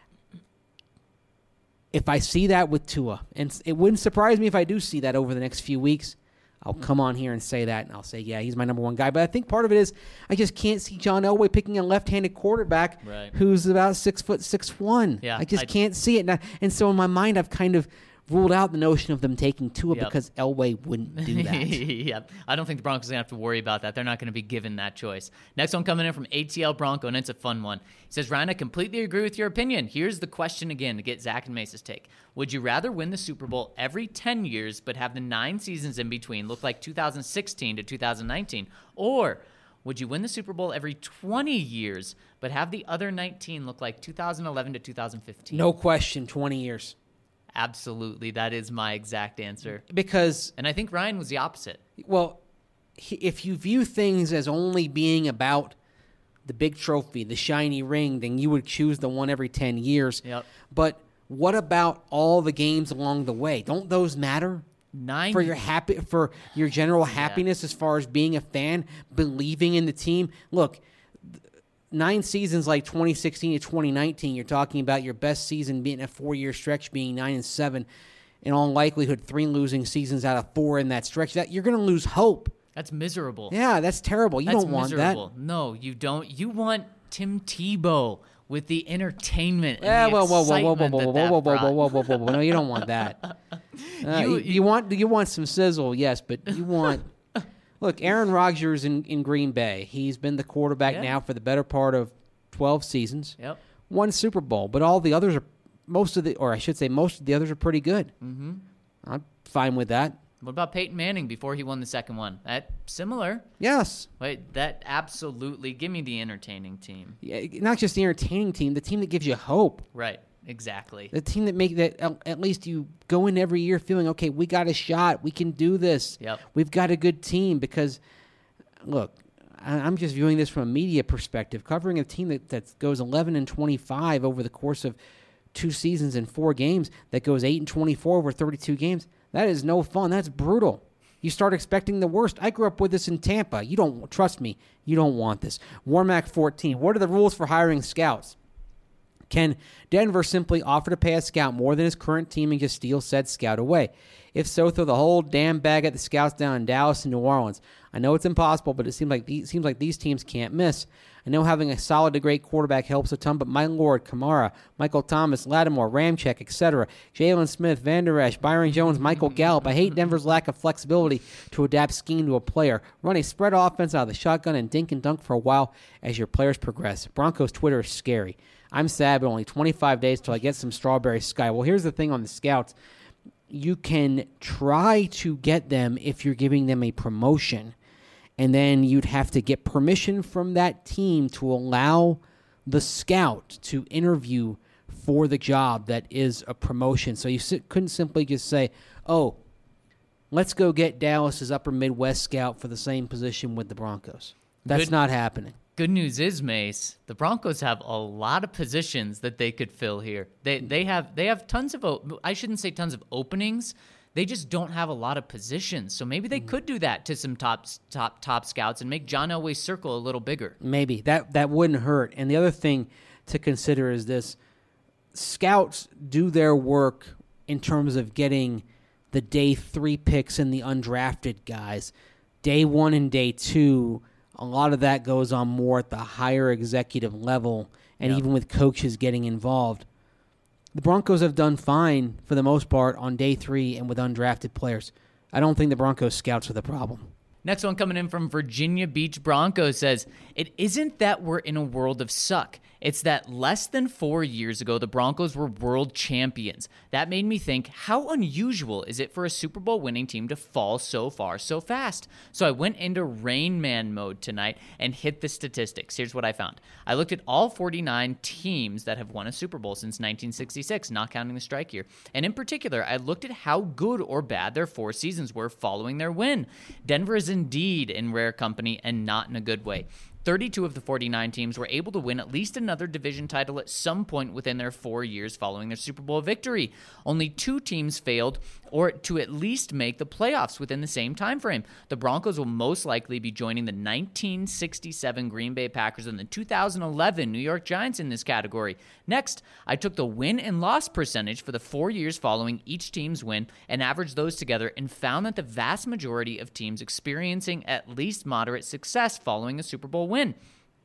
C: If I see that with Tua, and it wouldn't surprise me if I do see that over the next few weeks, I'll come on here and say that, and I'll say, yeah, he's my number one guy. But I think part of it is I just can't see John Elway picking a left-handed quarterback who's about 6'6".
A: Yeah,
C: I just can't see it. And so in my mind, I've kind of ruled out the notion of them taking Tua because Elway wouldn't do that.
A: Yep. I don't think the Broncos are going to have to worry about that. They're not going to be given that choice. Next one coming in from ATL Bronco, and it's a fun one. He says, Ryan, I completely agree with your opinion. Here's the question again to get Zach and Mace's take. Would you rather win the Super Bowl every 10 years but have the 9 seasons in between look like 2016 to 2019? Or would you win the Super Bowl every 20 years but have the other 19 look like 2011 to 2015?
C: No question, 20 years.
A: Absolutely. That is my exact answer.
C: And
A: I think Ryan was the opposite.
C: Well, if you view things as only being about the big trophy, the shiny ring, then you would choose the one every 10 years.
A: Yep.
C: But what about all the games along the way? Don't those matter? For your general happiness as far as being a fan, believing in the team? Look, 9 seasons like 2016 to 2019, you're talking about your best season being a 4-year stretch being 9-7. In all likelihood, 3 losing seasons out of 4 in that stretch. That you're going to lose hope.
A: That's miserable.
C: Yeah, that's terrible. You don't want
A: miserable.
C: that.
A: No, you don't. You want Tim Tebow with the entertainment and the excitement
C: whoa. No, you don't want that. You want some sizzle, yes, but you want... Look, Aaron Rodgers in Green Bay. He's been the quarterback now for the better part of 12 seasons.
A: Yep.
C: Won Super Bowl, but all the others most of the others are pretty good.
A: Mm-hmm.
C: I'm fine with that.
A: What about Peyton Manning before he won the second one? That similar.
C: Yes.
A: Wait, that absolutely. Give me the entertaining team.
C: Yeah, not just the entertaining team, the team that gives you hope.
A: Right. Exactly.
C: The team that at least you go in every year feeling, okay, we got a shot. We can do this.
A: Yep.
C: We've got a good team because, look, I'm just viewing this from a media perspective. Covering a team that goes 11-25 over the course of 2 seasons and 4 games, that goes 8-24 over 32 games, that is no fun. That's brutal. You start expecting the worst. I grew up with this in Tampa. Trust me, you don't want this. Warmack 14. What are the rules for hiring scouts? Can Denver simply offer to pay a scout more than his current team and just steal said scout away? If so, throw the whole damn bag at the scouts down in Dallas and New Orleans. I know it's impossible, but it seems like these teams can't miss. I know having a solid to great quarterback helps a ton, but my lord, Kamara, Michael Thomas, Lattimore, Ramczyk, etc., Jalen Smith, Van Der Esch, Byron Jones, Michael Gallup. I hate Denver's lack of flexibility to adapt scheme to a player. Run a spread offense out of the shotgun and dink and dunk for a while as your players progress. Broncos Twitter is scary. I'm sad, but only 25 days till I get some strawberry sky. Well, here's the thing on the scouts. You can try to get them if you're giving them a promotion, and then you'd have to get permission from that team to allow the scout to interview for the job that is a promotion. So you couldn't simply just say, oh, let's go get Dallas's upper Midwest scout for the same position with the Broncos. That's not happening.
A: Good news is, Mace, the Broncos have a lot of positions that they could fill here. They have tons of I shouldn't say tons of openings. They just don't have a lot of positions. So maybe they could do that to some top scouts and make John Elway's circle a little bigger.
C: Maybe that wouldn't hurt. And the other thing to consider is this: scouts do their work in terms of getting the day 3 picks and the undrafted guys. Day 1 and day 2. A lot of that goes on more at the higher executive level, and even with coaches getting involved. The Broncos have done fine, for the most part, on day 3 and with undrafted players. I don't think the Broncos scouts are the problem.
A: Next one coming in from Virginia Beach Broncos says, it isn't that we're in a world of suck. It's that less than 4 years ago, the Broncos were world champions. That made me think, how unusual is it for a Super Bowl winning team to fall so far so fast? So I went into Rain Man mode tonight and hit the statistics. Here's what I found. I looked at all 49 teams that have won a Super Bowl since 1966, not counting the strike year. And in particular, I looked at how good or bad their 4 seasons were following their win. Denver is indeed in rare company and not in a good way. 32 of the 49 teams were able to win at least another division title at some point within their 4 years following their Super Bowl victory. Only 2 teams failed or to at least make the playoffs within the same time frame. The Broncos will most likely be joining the 1967 Green Bay Packers and the 2011 New York Giants in this category. Next, I took the win and loss percentage for the 4 years following each team's win and averaged those together and found that the vast majority of teams experiencing at least moderate success following a Super Bowl win.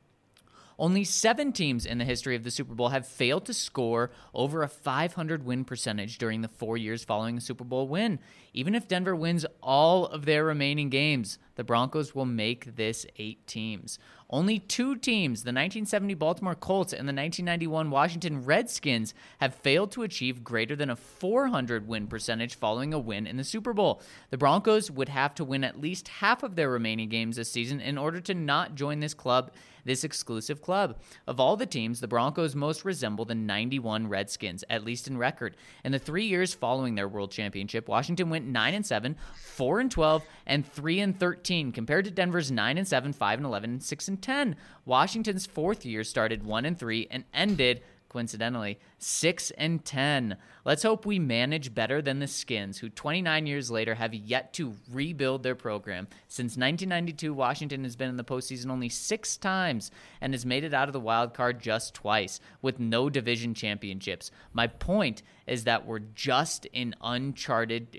A: Only 7 teams in the history of the Super Bowl have failed to score over a 500 win percentage during the 4 years following a Super Bowl win. Even if Denver wins all of their remaining games, the Broncos will make this 8 teams. Only 2 teams, the 1970 Baltimore Colts and the 1991 Washington Redskins, have failed to achieve greater than a 400 win percentage following a win in the Super Bowl. The Broncos would have to win at least half of their remaining games this season in order to not join this exclusive club. Of all the teams, the Broncos most resemble the 91 Redskins, at least in record. In the 3 years following their world championship, Washington went 9-7, 4-12, and 3-13, compared to Denver's 9-7, 5-11, and 6-10. Washington's 4th year started 1-3 and ended, coincidentally, 6-10. Let's hope we manage better than the Skins, who 29 years later have yet to rebuild their program. Since 1992, Washington has been in the postseason only 6 times and has made it out of the wild card just twice, with no division championships. My point is that we're not just in uncharted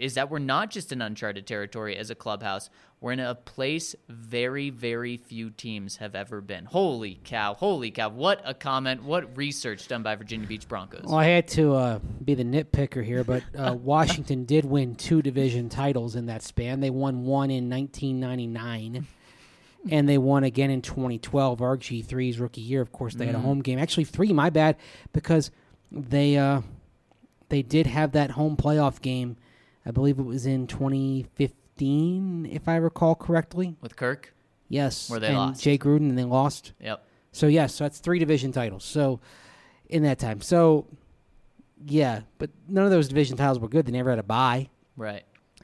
A: territory as a clubhouse. We're in a place very, very few teams have ever been. Holy cow. What a comment. What research done by Virginia Beach Broncos.
C: Well, I had to be the nitpicker here, but Washington did win 2 division titles in that span. They won one in 1999, and they won again in 2012, RG3's rookie year. Of course, they had a home game. Actually, 3, my bad, because they did have that home playoff game. I believe it was in 2015, if I recall correctly.
A: With Kirk?
C: Yes.
A: Where they lost.
C: Jay Gruden, and they lost.
A: Yep.
C: So, yes, so that's 3 division titles. So, in that time. So, yeah, but none of those division titles were good. They never had a bye.
A: Right.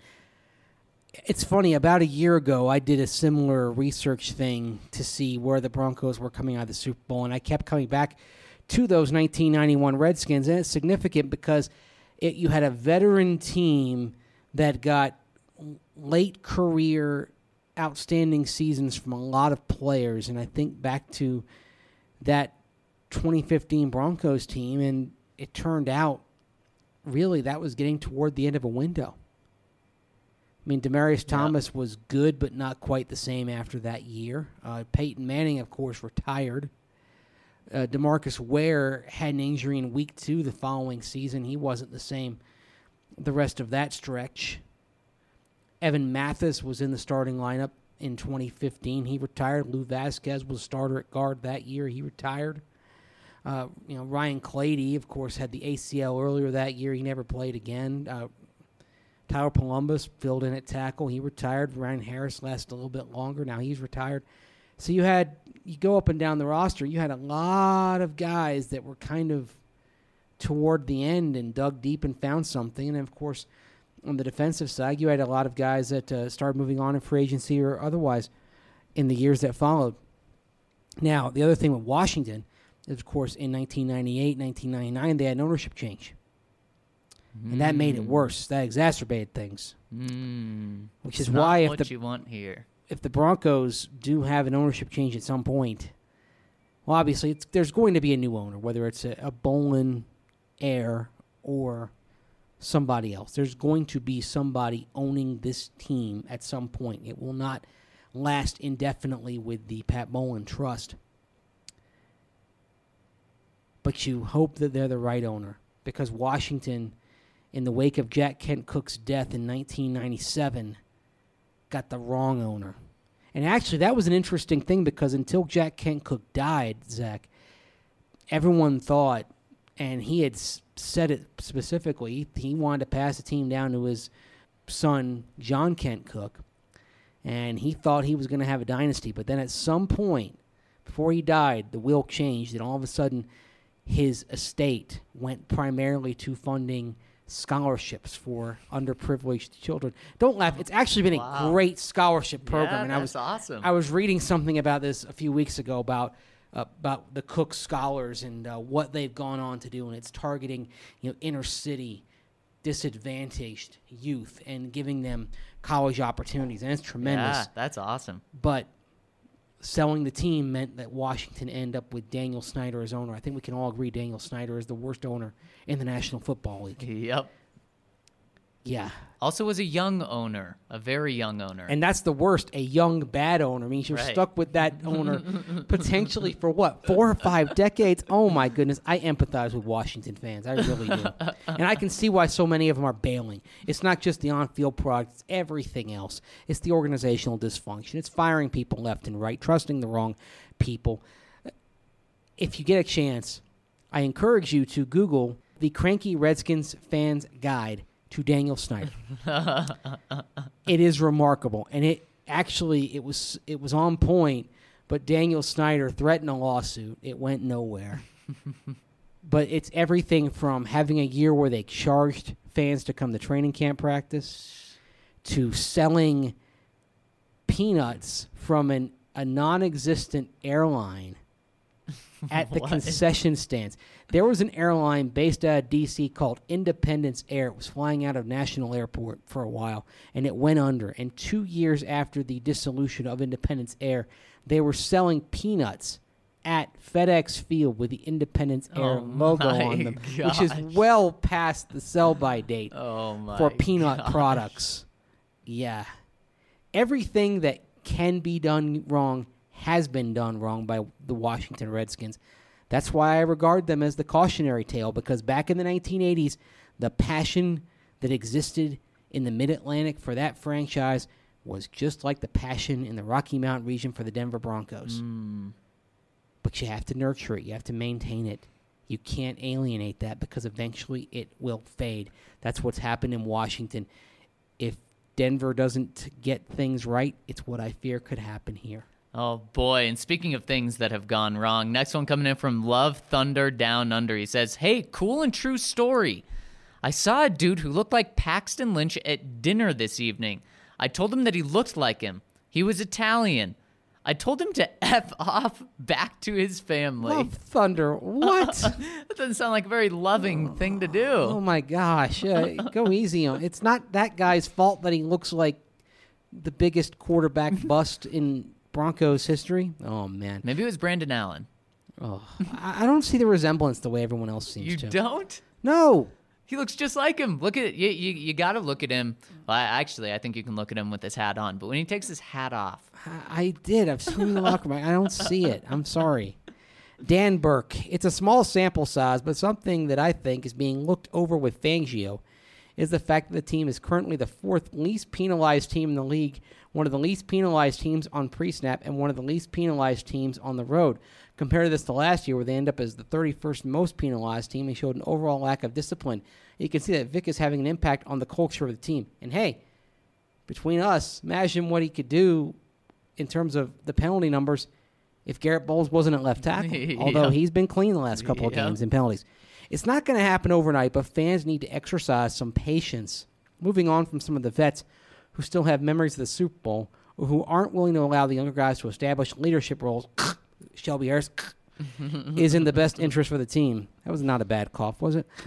C: It's funny, about a year ago, I did a similar research thing to see where the Broncos were coming out of the Super Bowl, and I kept coming back to those 1991 Redskins, and it's significant because you had a veteran team that got late career outstanding seasons from a lot of players, and I think back to that 2015 Broncos team, and it turned out really that was getting toward the end of a window. I mean, Demaryius Thomas was good, but not quite the same after that year. Peyton Manning, of course, retired. DeMarcus Ware had an injury in week 2 the following season. He wasn't the same the rest of that stretch. Evan Mathis was in the starting lineup in 2015. He retired. Lou Vasquez was a starter at guard that year. He retired. Ryan Clady, of course, had the ACL earlier that year. He never played again. Tyler Columbus filled in at tackle. He retired. Ryan Harris lasted a little bit longer. Now he's retired. So you go up and down the roster, you had a lot of guys that were kind of toward the end and dug deep and found something. And, of course, on the defensive side, you had a lot of guys that started moving on in free agency or otherwise in the years that followed. Now, the other thing with Washington is, of course, in 1998, 1999, they had an ownership change. And that made it worse. That exacerbated things. Which is why
A: you want here.
C: If the Broncos do have an ownership change at some point, well, obviously there's going to be a new owner, whether it's a Bolin heir or somebody else. There's going to be somebody owning this team at some point. It will not last indefinitely with the Pat Bolin Trust. But you hope that they're the right owner, because Washington, in the wake of Jack Kent Cooke's death in 1997, got the wrong owner. And actually, that was an interesting thing, because until Jack Kent Cooke died, Zach, everyone thought, and he had said it specifically, he wanted to pass the team down to his son, John Kent Cooke, and he thought he was going to have a dynasty. But then at some point, before he died, the will changed, and all of a sudden his estate went primarily to funding scholarships for underprivileged children. Don't laugh. It's actually been a great scholarship program.
A: Yeah, that's awesome.
C: I was reading something about this a few weeks ago about the Cook Scholars and what they've gone on to do, and it's targeting inner city disadvantaged youth and giving them college opportunities, and it's tremendous.
A: Yeah, that's awesome.
C: But selling the team meant that Washington ended up with Daniel Snyder as owner. I think we can all agree Daniel Snyder is the worst owner in the National Football League.
A: Yep.
C: Yeah.
A: Also was a young owner, a very young owner.
C: And that's the worst, a young, bad owner. Means you're stuck with that owner potentially for, 4 or 5 decades? Oh, my goodness. I empathize with Washington fans. I really do. And I can see why so many of them are bailing. It's not just the on-field product. It's everything else. It's the organizational dysfunction. It's firing people left and right, trusting the wrong people. If you get a chance, I encourage you to Google the Cranky Redskins Fans Guide to Daniel Snyder. It is remarkable, and it was on point, but Daniel Snyder threatened a lawsuit. It went nowhere. But it's everything from having a year where they charged fans to come to training camp practice to selling peanuts from a non-existent airline at the concession stands. There was an airline based out of D.C. called Independence Air. It was flying out of National Airport for a while, and it went under. And 2 years after the dissolution of Independence Air, they were selling peanuts at FedEx Field with the Independence Air logo on them, which is well past the sell-by date for peanut products. Yeah. Everything that can be done wrong has been done wrong by the Washington Redskins. That's why I regard them as the cautionary tale, because back in the 1980s, the passion that existed in the Mid-Atlantic for that franchise was just like the passion in the Rocky Mountain region for the Denver Broncos. But you have to nurture it. You have to maintain it. You can't alienate that because eventually it will fade. That's what's happened in Washington. If Denver doesn't get things right, it's what I fear could happen here.
A: Oh, boy. And speaking of things that have gone wrong, next one coming in from Love Thunder Down Under. He says, hey, cool and true story. I saw a dude who looked like Paxton Lynch at dinner this evening. I told him that he looked like him. He was Italian. I told him to F off back to his family.
C: Love Thunder, what?
A: That doesn't sound like a very loving thing to do.
C: Oh, my gosh. Go easy on. It's not that guy's fault that he looks like the biggest quarterback bust in Broncos history. Oh, man.
A: Maybe it was Brandon Allen.
C: Oh, I don't see the resemblance the way everyone else seems to.
A: You don't?
C: No.
A: He looks just like him. Look at you got to look at him. Well, actually, I think you can look at him with his hat on. But when he takes his hat off.
C: I did. I've seen him in the locker room. I don't see it. I'm sorry. Dan Burke. It's a small sample size, but something that I think is being looked over with Fangio is the fact that the team is currently the 4th least penalized team in the league, one of the least penalized teams on pre-snap, and one of the least penalized teams on the road. Compare this to last year, where they end up as the 31st most penalized team and showed an overall lack of discipline. You can see that Vic is having an impact on the culture of the team. And hey, between us, imagine what he could do in terms of the penalty numbers if Garrett Bowles wasn't at left tackle, although he's been clean the last couple of games in penalties. It's not going to happen overnight, but fans need to exercise some patience. Moving on from some of the vets who still have memories of the Super Bowl or who aren't willing to allow the younger guys to establish leadership roles, Shelby Harris, is in the best interest for the team. That was not a bad cough, was it?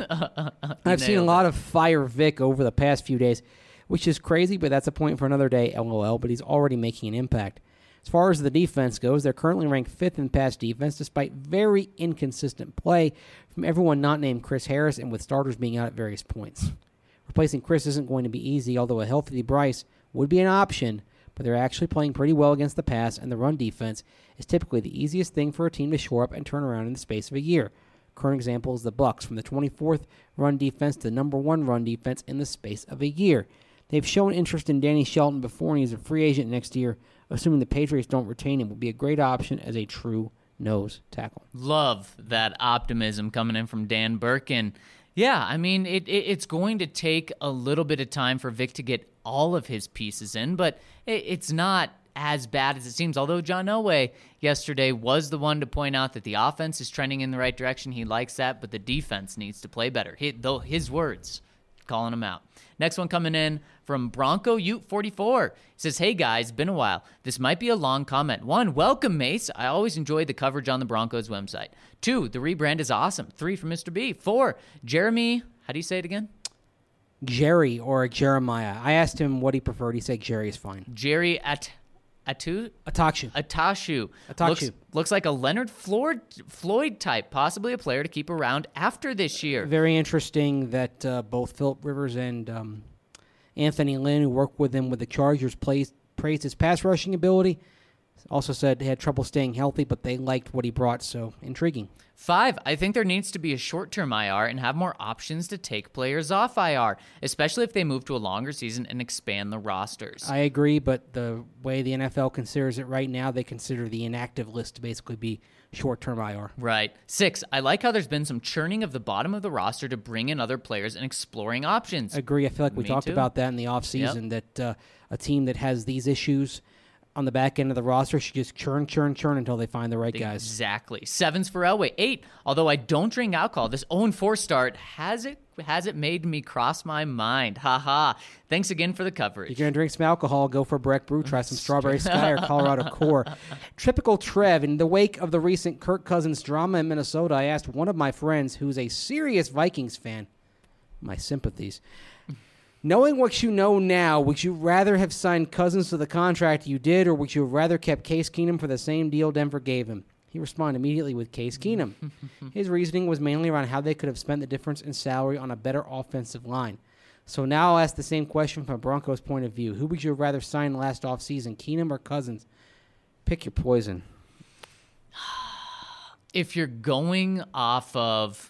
C: I've seen a lot of fire Vic over the past few days, which is crazy, but that's a point for another day, LOL, but he's already making an impact. As far as the defense goes, they're currently ranked 5th in pass defense, despite very inconsistent play from everyone not named Chris Harris and with starters being out at various points. Replacing Chris isn't going to be easy, although a healthy Bryce would be an option, but they're actually playing pretty well against the pass, and the run defense is typically the easiest thing for a team to shore up and turn around in the space of a year. Current example is the Bucs, from the 24th run defense to the number 1 run defense in the space of a year. They've shown interest in Danny Shelton before, and he's a free agent next year. Assuming the Patriots don't retain him, will be a great option as a true nose tackle.
A: Love that optimism coming in from Dan Birkin. Yeah, I mean, it's going to take a little bit of time for Vic to get all of his pieces in, but it's not as bad as it seems. Although John Elway yesterday was the one to point out that the offense is trending in the right direction. He likes that, but the defense needs to play better. His words, calling him out. Next one coming in from Bronco Ute 44. He says, hey guys, been a while. This might be a long comment. 1, welcome Mace. I always enjoyed the coverage on the Broncos website. 2, the rebrand is awesome. 3, from Mr. B. 4, Jeremy, how do you say it again?
C: Jerry or Jeremiah. I asked him what he preferred. He said Jerry is fine.
A: Jerry Atashu. Looks like a Leonard Floyd type, possibly a player to keep around after this year.
C: Very interesting that both Phillip Rivers and Anthony Lynn, who worked with him with the Chargers, praised his pass rushing ability. Also said he had trouble staying healthy, but they liked what he brought, so intriguing.
A: 5, I think there needs to be a short-term IR and have more options to take players off IR, especially if they move to a longer season and expand the rosters.
C: I agree, but the way the NFL considers it right now, they consider the inactive list to basically be short-term IR.
A: Right. 6, I like how there's been some churning of the bottom of the roster to bring in other players and exploring options.
C: I agree. I feel like we talked
A: too.
C: about that in the offseason, that a team that has these issues on the back end of the roster should just churn until they find the right guys.
A: Exactly. 7's for Elway. 8, although I don't drink alcohol, this 0-4 start, has it made me cross my mind? Ha. Thanks again for the coverage.
C: If you're going to drink some alcohol, go for Breck Brew. Try some Strawberry Sky or Colorado Core. Typical Trev, in the wake of the recent Kirk Cousins drama in Minnesota, I asked one of my friends who's a serious Vikings fan, my sympathies, knowing what you know now, would you rather have signed Cousins to the contract you did, or would you have rather kept Case Keenum for the same deal Denver gave him? He responded immediately with Case Keenum. His reasoning was mainly around how they could have spent the difference in salary on a better offensive line. So now I'll ask the same question from a Broncos point of view. Who would you rather sign last offseason, Keenum or Cousins? Pick your poison.
A: If you're going off of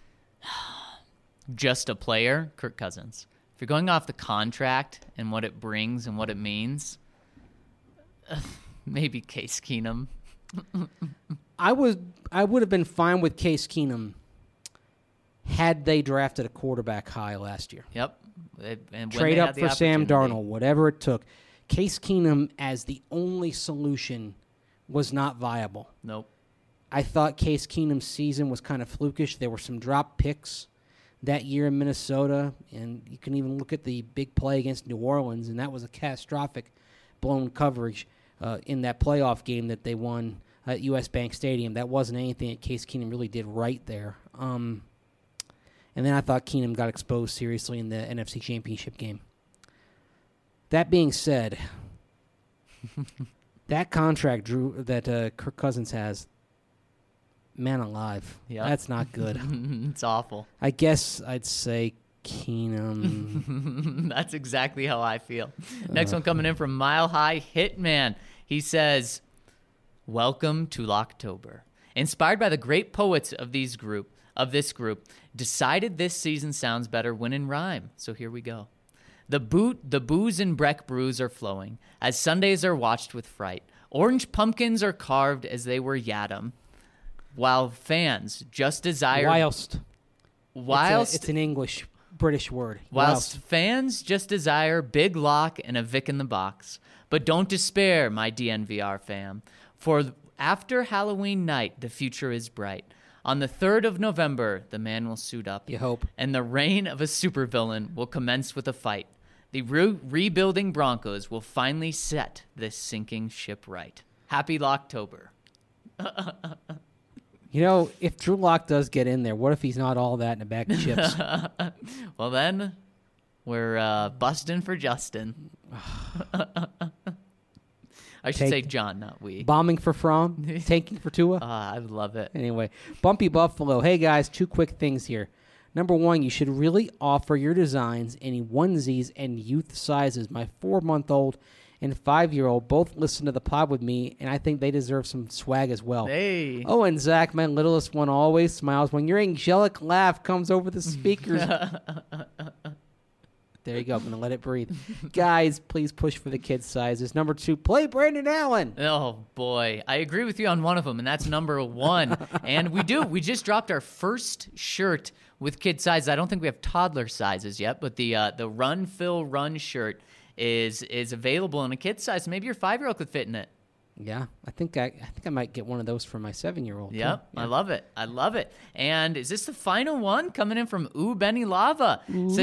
A: just a player, Kirk Cousins. If you're going off the contract and what it brings and what it means, maybe Case Keenum.
C: I would have been fine with Case Keenum had they drafted a quarterback high last year.
A: Yep. And
C: trade up for Sam Darnold, whatever it took. Case Keenum as the only solution was not viable.
A: Nope.
C: I thought Case Keenum's season was kind of flukish. There were some drop picks that year in Minnesota, and you can even look at the big play against New Orleans, and that was a catastrophic blown coverage in that playoff game that they won at U.S. Bank Stadium. That wasn't anything that Case Keenum really did right there. And then I thought Keenum got exposed seriously in the NFC Championship game. That being said, that contract that Kirk Cousins has, man alive.
A: Yep.
C: That's not good.
A: It's awful.
C: I guess I'd say Keenum.
A: That's exactly how I feel. Next one coming in from Mile High Hitman. He says, welcome to Locktober. Inspired by the great poets of this group, decided this season sounds better when in rhyme. So here we go. The booze and Breck brews are flowing as Sundays are watched with fright. Orange pumpkins are carved as they were Yadam. While fans just desire... Whilst
C: it's an English, British word.
A: Whilst fans just desire Big Lock and a Vic in the box. But don't despair, my DNVR fam. For after Halloween night, the future is bright. On the 3rd of November, the man will suit up.
C: You hope.
A: And the reign of a supervillain will commence with a fight. The rebuilding Broncos will finally set this sinking ship right. Happy Locktober.
C: You know, if Drew Lock does get in there, what if he's not all that in a bag of chips?
A: Well, then we're busting for Justin. I should say John, not we.
C: Bombing for Fromm, tanking for Tua.
A: I love it.
C: Anyway, Bumpy Buffalo. Hey, guys, 2 quick things here. Number 1, you should really offer your designs in onesies and youth sizes. My 4-month-old and 5-year-old both listen to the pod with me, and I think they deserve some swag as well.
A: Hey.
C: Oh, and Zach, my littlest one, always smiles when your angelic laugh comes over the speakers. There you go. I'm going to let it breathe. Guys, please push for the kid sizes. Number 2, play Brandon Allen.
A: Oh, boy. I agree with you on one of them, and that's number 1. And we just dropped our first shirt with kid sizes. I don't think we have toddler sizes yet, but the Run, Phil, Run shirt is available in a kid size. Maybe your 5-year-old could fit in it.
C: Yeah, I think I might get one of those for my 7-year-old.
A: Yep,
C: Yeah.
A: I love it. And is this the final one coming in from Benny Lava?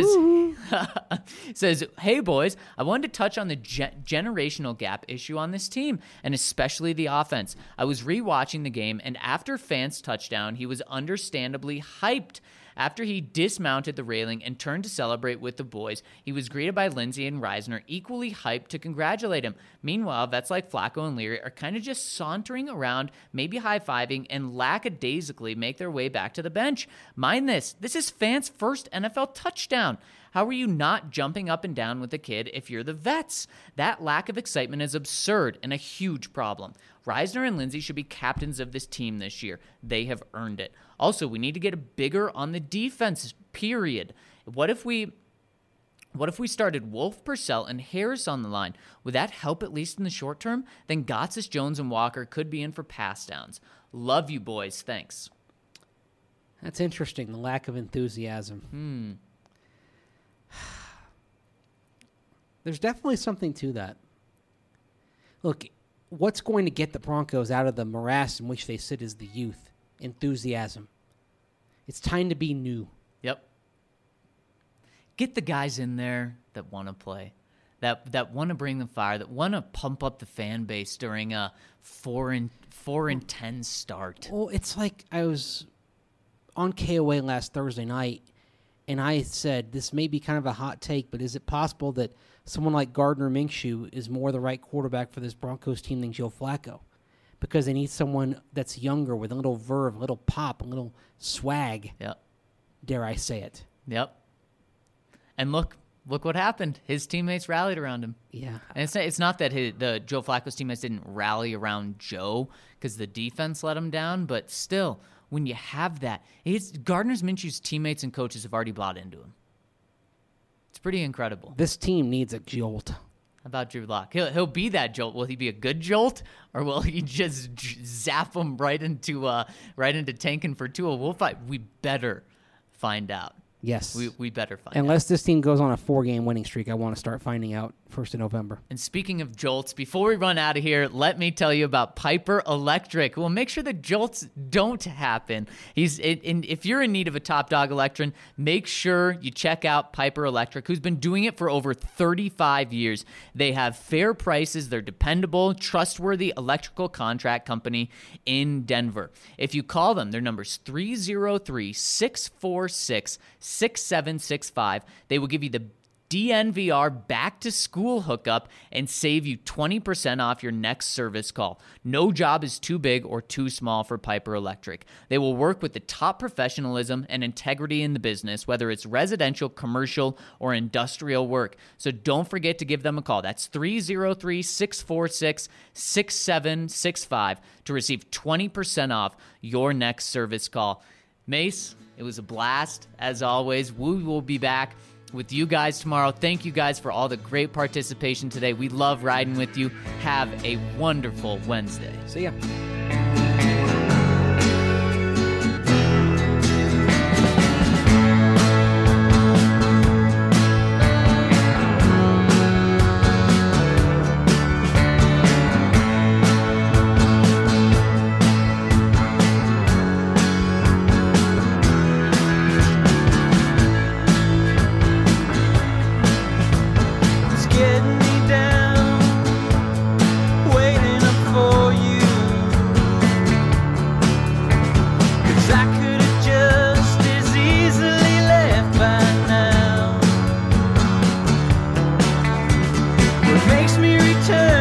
A: Says, hey boys, I wanted to touch on the generational gap issue on this team, and especially the offense. I was rewatching the game, and after Fant's touchdown, he was understandably hyped. After he dismounted the railing and turned to celebrate with the boys, he was greeted by Lindsay and Reisner, equally hyped to congratulate him. Meanwhile, vets like Flacco and Leary are kind of just sauntering around, maybe high-fiving, and lackadaisically make their way back to the bench. Mind this is Fant's first NFL touchdown. How are you not jumping up and down with the kid if you're the vets? That lack of excitement is absurd and a huge problem. Reisner and Lindsay should be captains of this team this year. They have earned it. Also, we need to get bigger on the defense, period. What if we started Wolf, Purcell, and Harris on the line? Would that help at least in the short term? Then Gotsis, Jones, and Walker could be in for pass downs. Love you, boys. Thanks.
C: That's interesting, the lack of enthusiasm. There's definitely something to that. Look, what's going to get the Broncos out of the morass in which they sit is the youth, enthusiasm. It's time to be new.
A: Yep. Get the guys in there that want to play, that want to bring the fire, that want to pump up the fan base during a 4-10 start.
C: Well, it's like I was on KOA last Thursday night, and I said, this may be kind of a hot take, but is it possible that someone like Gardner Minshew is more the right quarterback for this Broncos team than Joe Flacco? Because they need someone that's younger with a little verve, a little pop, a little swag.
A: Yep.
C: Dare I say it?
A: Yep. And look what happened. His teammates rallied around him.
C: Yeah.
A: And it's not that the Joe Flacco's teammates didn't rally around Joe because the defense let him down, but still, when you have that, Gardner Minshew's teammates and coaches have already bought into him. It's pretty incredible.
C: This team needs a jolt.
A: How about Drew Lock? He'll be that jolt. Will he be a good jolt, or will he just zap him right into tanking for Tua? We'll fight. We better find out.
C: Yes.
A: We better find out.
C: Unless this team goes on a 4-game winning streak, I want to start finding out 1st of November.
A: And speaking of jolts, before we run out of here, let me tell you about Piper Electric. We'll make sure the jolts don't happen. If you're in need of a top dog electron, make sure you check out Piper Electric, who's been doing it for over 35 years. They have fair prices. They're dependable, trustworthy electrical contract company in Denver. If you call them, their number's 303-646-6765. They will give you the DNVR back-to-school hookup and save you 20% off your next service call. No job is too big or too small for Piper Electric. They will work with the top professionalism and integrity in the business, whether it's residential, commercial, or industrial work. So don't forget to give them a call. That's 303-646-6765 to receive 20% off your next service call. Mace, it was a blast, as always. We will be back with you guys tomorrow. Thank you guys for all the great participation today. We love riding with you. Have a wonderful Wednesday.
C: See ya.
B: Makes me return